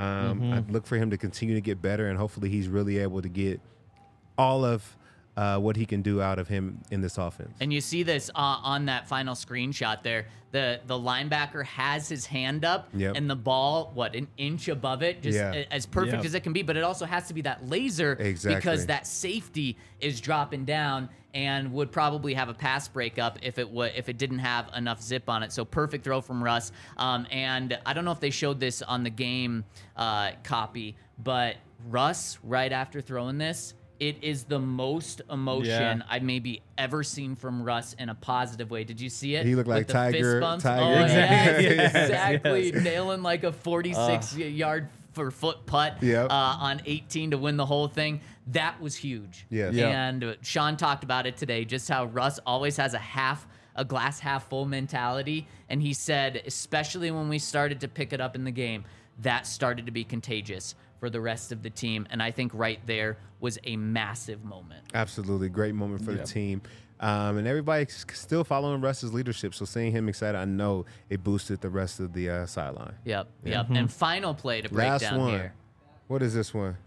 I look for him to continue to get better, and hopefully he's really able to get all of what he can do out of him in this offense. And you see this on that final screenshot there. The linebacker has his hand up, and the ball, an inch above it, just as perfect as it can be. But it also has to be that laser because that safety is dropping down and would probably have a pass breakup if it didn't have enough zip on it. So perfect throw from Russ. And I don't know if they showed this on the game copy, but Russ, right after throwing this, it is the most emotion I've maybe ever seen from Russ in a positive way. Did you see it? He looked like With the Tiger. fist bumps? Tiger. Oh, Exactly. yes, exactly. Nailing like a 46-yard for foot putt on 18 to win the whole thing. That was huge. Yes. And Sean talked about it today, just how Russ always has a glass half full mentality. And he said, especially when we started to pick it up in the game, that started to be contagious for the rest of the team. And I think right there was a massive moment. Absolutely. Great moment for the team. And everybody's still following Russ's leadership. So seeing him excited, I know it boosted the rest of the sideline. Yep. And final play to break Last down one. here. What is this one?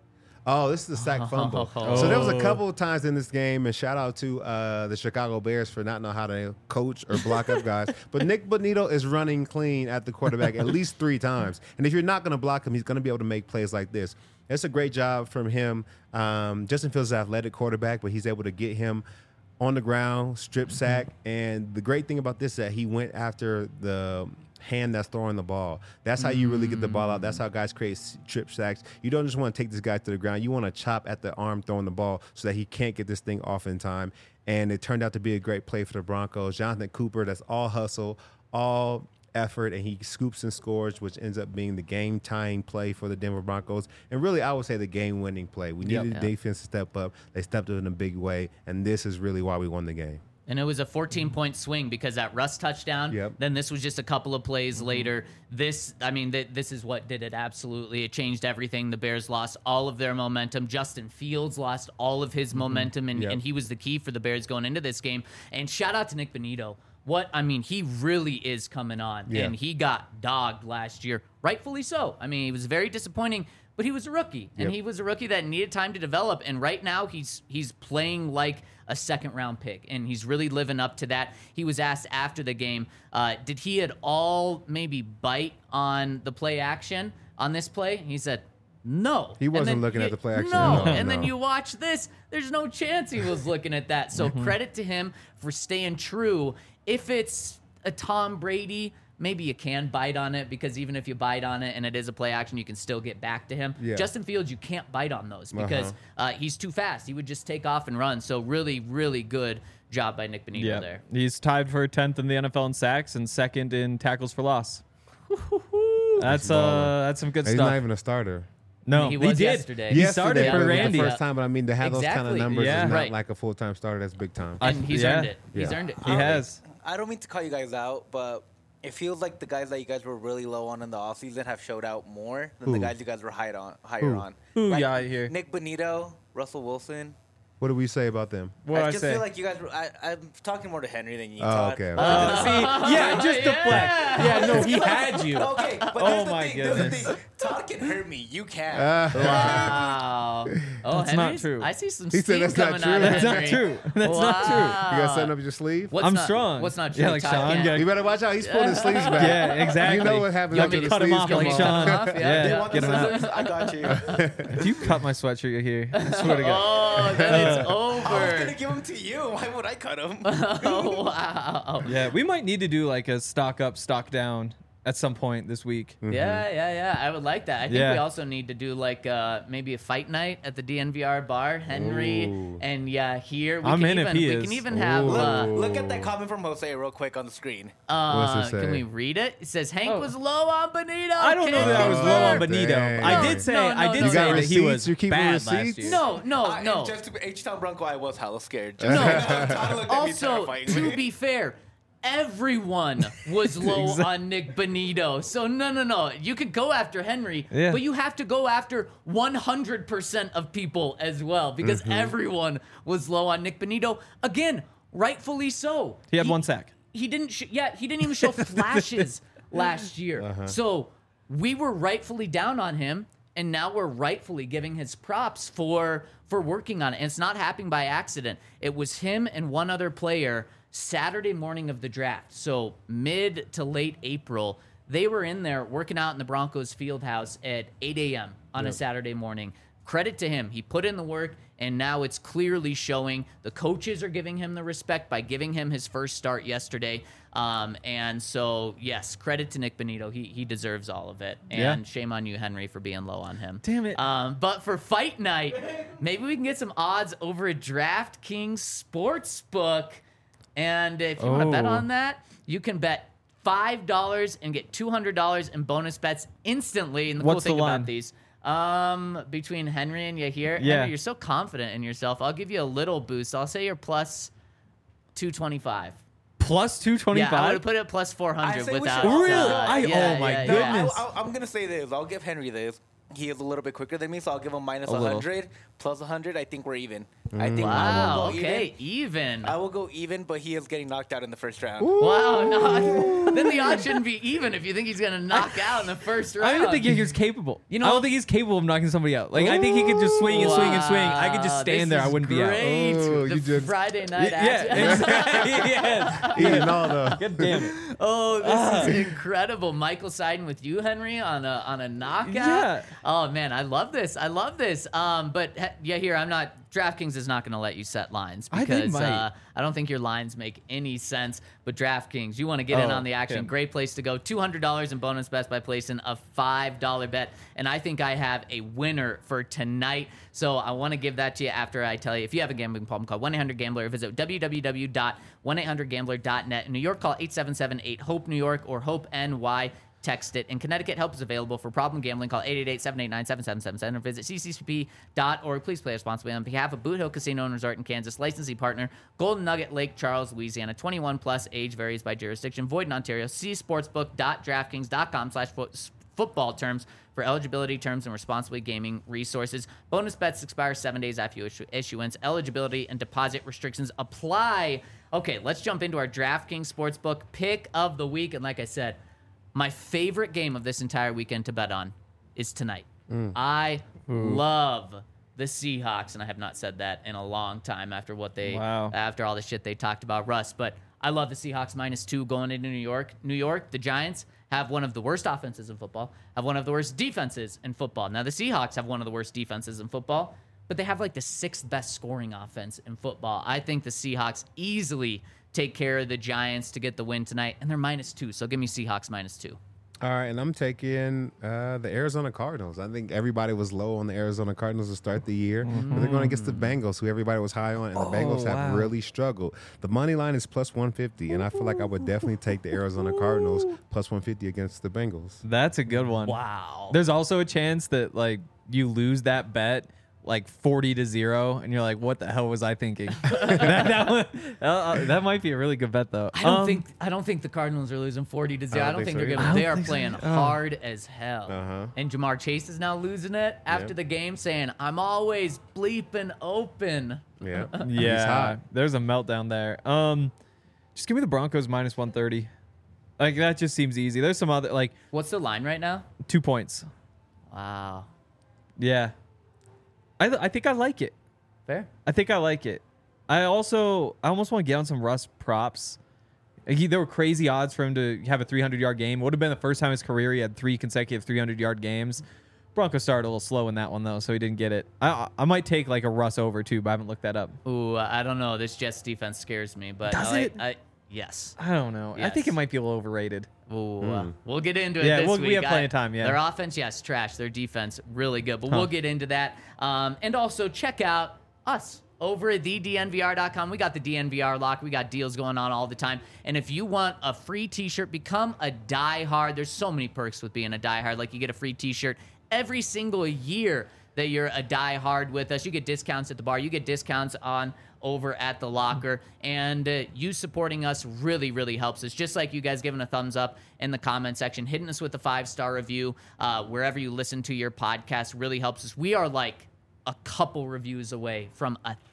Oh, this is the sack fumble. So there was a couple of times in this game, and shout out to the Chicago Bears for not knowing how to coach or block up guys. But Nick Bonito is running clean at the quarterback at least 3 times. And if you're not going to block him, he's going to be able to make plays like this. It's a great job from him. Justin Fields is an athletic quarterback, but he's able to get him on the ground, strip sack. And the great thing about this is that he went after the hand that's throwing the ball. That's how you really get the ball out. That's how guys create strip sacks. You don't just want to take this guy to the ground. You want to chop at the arm throwing the ball so that he can't get this thing off in time. And it turned out to be a great play for the Broncos. Jonathan Cooper, that's all hustle, all effort, and he scoops and scores, which ends up being the game-tying play for the Denver Broncos. And really, I would say the game-winning play. We needed the defense to step up. They stepped up in a big way, and this is really why we won the game. And it was a 14-point swing because that Russ touchdown, then this was just a couple of plays later. This is what did it absolutely. It changed everything. The Bears lost all of their momentum. Justin Fields lost all of his momentum, and he was the key for the Bears going into this game. And shout out to Nick Bonito. He really is coming on, and he got dogged last year, rightfully so. I mean, he was very disappointing, but he was a rookie, and he was a rookie that needed time to develop. And right now, he's playing like a second-round pick, and he's really living up to that. He was asked after the game, did he at all maybe bite on the play action on this play? He said, no. He wasn't looking at the play action. No. And then you watch this, there's no chance he was looking at that. So credit to him for staying true. If it's a Tom Brady, maybe you can bite on it, because even if you bite on it and it is a play action, you can still get back to him. Justin Fields, you can't bite on those because he's too fast. He would just take off and run. So really, really good job by Nick Bonito there. He's tied for 10th in the NFL in sacks and 2nd in tackles for loss. That's some good stuff. He's not even a starter. No, he was did. yesterday. He started for Randy. The first time, but I mean, to have those kind of numbers is not like a full-time starter. That's big time. And he's earned it. He's earned it. He has. I don't mean to call you guys out, but it feels like the guys that you guys were really low on in the offseason have showed out more than the guys you guys were higher on. Who Like, yeah, here? Nick Bonito, Russell Wilson. What do we say about them? What I I just say? feel like you guys were. I'm talking more to Henry than you, Oh, Todd. okay. Just deflect. Yeah, no, he had you. Okay, but Oh there's the my thing, there's the goodness. thing. Todd can hurt me. You can't. Wow. Oh, That's not Henry's- true. I see some He said steam that's not coming true. out of That's not Henry. true. That's not true. You got something up your sleeve? What's I'm not- strong. What's not true? Yeah, like Todd Sean. can't. Yeah. You better watch out. He's pulling his sleeves back. Yeah, exactly. You know what happens You after want me the to cut him sleeves off come like off. Sean? Cut him off? Yeah. Yeah, Want get the him out. scissors? I got you. If you cut my sweatshirt here, I swear to God. Oh, then it's I was gonna over. give him to you. Why would I cut him? Oh, wow. Yeah, we might need to do like a stock up, stock down at some point this week. Yeah. I would like that. I think Yeah. we also need to do like maybe a fight night at the DNVR bar. Henry Ooh. and here I'm in if he we is. can even have. Ooh. Look at that comment from Jose real quick on the screen. What's it say? Can we read it? It says Hank was low on Bonito. I don't know that I was low on Benito. Dang. I did say No, I did no, say no. that he was You're keeping bad last receipts? year. No. And just to be H-Town Bronco, I was hella scared. Just Todd looked at me Also, terrifyingly. to be fair, everyone was low on Nick Bonito. So no. You could go after Henry, Yeah. but you have to go after 100% of people as well, because everyone was low on Nick Bonito. Again, rightfully so. He had 1 sack. He didn't. He didn't even show flashes last year. So we were rightfully down on him, and now we're rightfully giving his props for working on it. And it's not happening by accident. It was him and one other player Saturday morning of the draft. So mid to late April, they were in there working out in the Broncos field house at 8 a.m. on a Saturday morning. Credit to him. He put in the work, and now it's clearly showing. The coaches are giving him the respect by giving him his first start yesterday. And so, yes, credit to Nick Bonito. He deserves all of it. And shame on you, Henry, for being low on him. Damn it. But for fight night, maybe we can get some odds over at DraftKings Sportsbook. And if you want to bet on that, you can bet $5 and get $200 in bonus bets instantly. And the What's cool thing the line? about these, between Henry and Yahir, Yeah. Henry, you're so confident in yourself. I'll give you a little boost. I'll say you're plus 225. Plus 225. Yeah, I would have put it plus 400 I say we without. should- Really? Oh my goodness. No, I'm gonna say this. I'll give Henry this. he is a little bit quicker than me, so I'll give him minus little. 100. Plus 100, I think we're even. I think Wow. I will go Okay. Even. I will go even, but he is getting knocked out in the first round. Wow. No. Then the odds shouldn't be even if you think he's gonna knock out in the first round. I don't think he's capable. You know- I don't think he's capable of knocking somebody out. Like, I think he could just swing and swing and swing. I could just Wow, stand this there. I is wouldn't be out. great. Oh, The you just- Friday night Yeah, action. exactly. Yeah. Eating all the. God damn it. Oh, this is incredible. Michael siding with you, Henry, on a knockout. Yeah. Oh man, I love this. I love this. Here I'm not. DraftKings is not going to let you set lines I think because might. I don't think your lines make any sense. But DraftKings, you want to get in Oh, on the action. yeah. Great place to go. $200 in bonus bets by placing a $5 bet. And I think I have a winner for tonight. So I want to give that to you after I tell you. If you have a gambling problem, call 1-800-GAMBLER or visit www.1800gambler.net. In New York, call 877-8-HOPE-NEW YORK or HOPE-NY. Text it. In Connecticut, help is available for problem gambling. Call 888-789-7777 or visit cccp.org. Please play responsibly on behalf of Boot Hill Casino and Resort in Kansas. Licensee partner, Golden Nugget, Lake Charles, Louisiana. 21 plus. Age varies by jurisdiction. Void in Ontario. See sportsbook.draftkings.com/football terms for eligibility, terms, and responsibly gaming resources. Bonus bets expire 7 days after issuance. Eligibility and deposit restrictions apply. Okay, let's jump into our DraftKings Sportsbook pick of the week. And like I said, my favorite game of this entire weekend to bet on is tonight. I love the Seahawks, and I have not said that in a long time after after all the shit they talked about Russ. But I love the Seahawks -2 going into New York. New York, the Giants have one of the worst offenses in football, have one of the worst defenses in football. Now the Seahawks have one of the worst defenses in football, but they have like the 6th best scoring offense in football. I think the Seahawks easily take care of the Giants to get the win tonight, and they're -2. So give me Seahawks -2. All right, and I'm taking the Arizona Cardinals. I think everybody was low on the Arizona Cardinals to start the year, but they're going against the Bengals, who everybody was high on, and the Bengals have really struggled. The money line is plus 150, and I feel like I would definitely take the Arizona Cardinals plus 150 against the Bengals. That's a good one. Wow. There's also a chance that like you lose that bet like 40-0, and you're like, what the hell was I thinking? that might be a really good bet though. I don't think the Cardinals are losing 40-0. I don't think so they're either. gonna. They are think so. playing hard as hell. Uh-huh. And Jamar Chase is now losing it after the game, saying, "I'm always bleeping open." Yeah, He's Yeah, hot. there's a meltdown there. Just give me the Broncos -130. Like that just seems easy. There's some other like What's the line right now? 2 points. Wow. Yeah, I think I like it. Fair. I think I like it. I almost want to get on some Russ props. There were crazy odds for him to have a 300-yard game. It would have been the first time in his career he had 3 consecutive 300-yard games. Broncos started a little slow in that one though, so he didn't get it. I might take like a Russ over too, but I haven't looked that up. Ooh, I don't know. This Jets defense scares me, but Does it? Yes. I don't know. I think Yes. it might be a little overrated. Ooh, we'll get into it Yeah, this week. we have plenty of time, yeah. Their offense, yes, trash. Their defense, really good. But we'll get into that. And also check out us over at thednvr.com. We got the DNVR lock. We got deals going on all the time. And if you want a free t-shirt, become a diehard. There's so many perks with being a diehard. Like you get a free t-shirt every single year that you're a diehard with us. You get discounts at the bar. You get discounts on over at the locker, and you supporting us really, really helps us. Just like you guys giving a thumbs up in the comment section, hitting us with a 5-star review wherever you listen to your podcast really helps us. We are like a couple reviews away from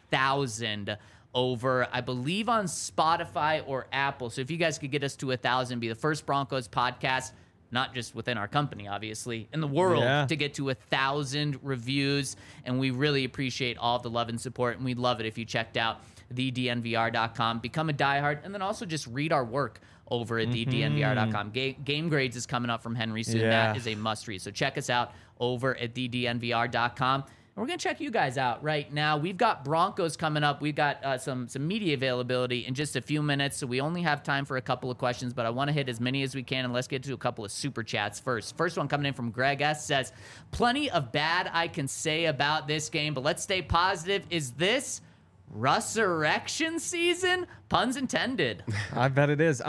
1,000 over, I believe, on Spotify or Apple. So if you guys could get us to 1,000, be the first Broncos podcast, not just within our company, obviously, in the world, to get to 1,000 reviews. And we really appreciate all of the love and support. And we'd love it if you checked out thednvr.com, become a diehard, and then also just read our work over at thednvr.com. Game grades is coming up from Henry soon. Yeah. That is a must read. So check us out over at thednvr.com. And we're going to check you guys out right now. We've got Broncos coming up. We've got some media availability in just a few minutes, so we only have time for a couple of questions, but I want to hit as many as we can, and let's get to a couple of super chats first. First one coming in from Greg S. says, plenty of bad I can say about this game, but let's stay positive. Is this resurrection season? Puns intended. I bet it is.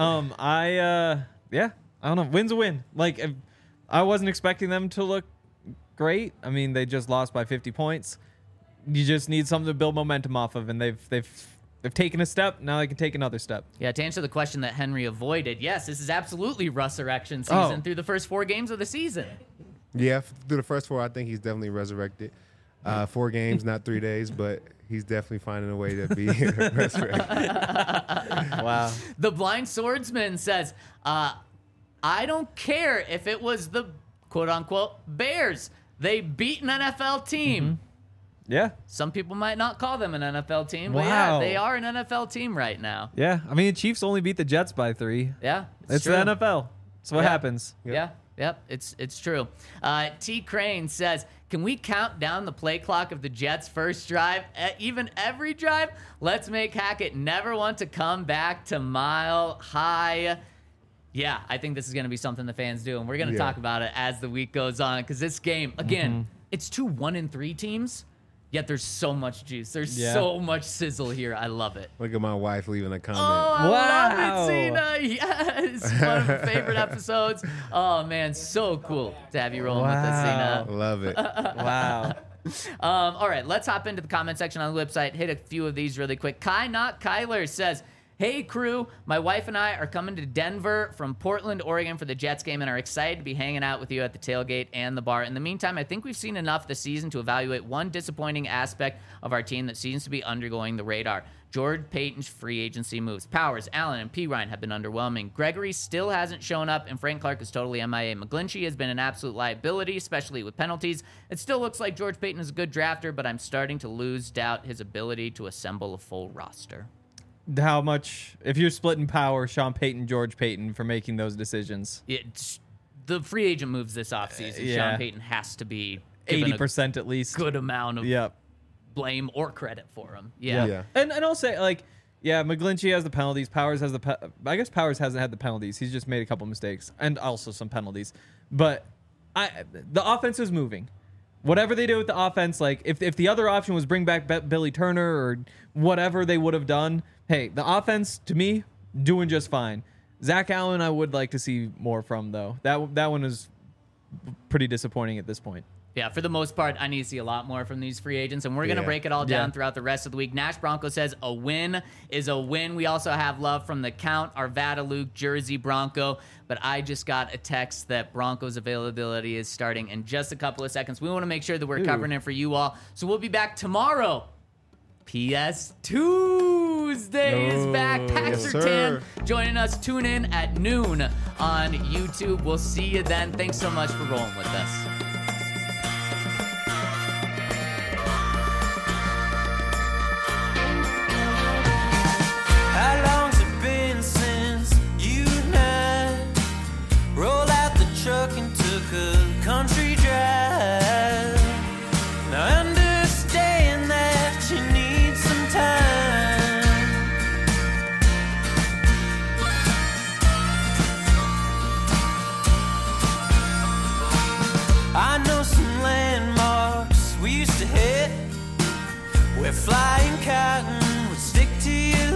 I don't know. Win's a win. Like, I wasn't expecting them to look great. I mean, they just lost by 50 points. You just need something to build momentum off of, and they've taken a step. Now they can take another step. Yeah, to answer the question that Henry avoided, yes, this is absolutely resurrection season through the first 4 games of the season. Yeah, through the first 4, I think he's definitely resurrected. 4 games, not 3 days, but he's definitely finding a way to be resurrected. Wow. The Blind Swordsman says, I don't care if it was the quote-unquote Bears. They beat an NFL team. Yeah. Some people might not call them an NFL team, but yeah, Wow. they are an NFL team right now. Yeah. I mean, the Chiefs only beat the Jets by 3. Yeah, It's true. the NFL. It's what Yeah. happens. Yeah, yep, it's true. T. Crane says, can we count down the play clock of the Jets' first drive, even every drive? Let's make Hackett never want to come back to Mile High. Yeah, I think this is going to be something the fans do, and we're going to talk about it as the week goes on, because this game, again, it's 2 1-3 teams, yet there's so much juice. There's so much sizzle here. I love it. Look at my wife leaving a comment. Oh, I Wow. love it, Cena. Yes. One of her favorite episodes. Oh, man. So cool to have you rolling with us, Cena. Love it. Wow. All right. Let's hop into the comment section on the website. Hit a few of these really quick. Kai Not Kyler says, hey, crew, my wife and I are coming to Denver from Portland, Oregon for the Jets game and are excited to be hanging out with you at the tailgate and the bar. In the meantime, I think we've seen enough this season to evaluate one disappointing aspect of our team that seems to be undergoing the radar. George Payton's free agency moves. Powers, Allen, and P. Ryan have been underwhelming. Gregory still hasn't shown up, and Frank Clark is totally MIA. McGlinchey has been an absolute liability, especially with penalties. It still looks like George Payton is a good drafter, but I'm starting to lose doubt his ability to assemble a full roster. How much, if you're splitting power, Sean Payton, George Payton for making those decisions? It's the free agent moves this offseason. Yeah. Sean Payton has to be given 80% at least. a good amount of Yep. blame or credit for him. Yeah. And I'll say, like, yeah, McGlinchey has the penalties. Powers has I guess Powers hasn't had the penalties. He's just made a couple mistakes and also some penalties. But the offense is moving. Whatever they do with the offense, like if the other option was bring back Billy Turner or whatever they would have done, hey, the offense to me doing just fine. Zach Allen, I would like to see more from though. That one is pretty disappointing at this point. Yeah, for the most part, I need to see a lot more from these free agents, and we're going to break it all down throughout the rest of the week. Nash Bronco says a win is a win. We also have love from the Count, Arvada Luke, Jersey Bronco, but I just got a text that Broncos availability is starting in just a couple of seconds. We want to make sure that we're covering it for you all, so we'll be back tomorrow. PS Tuesday is back. Paxer Tan joining us. Tune in at noon on YouTube. We'll see you then. Thanks so much for rolling with us. How long's it been since you and I rolled out the truck and took a country drive? Now I understand that you need some time. I know some landmarks we used to hit where flying cotton would stick to your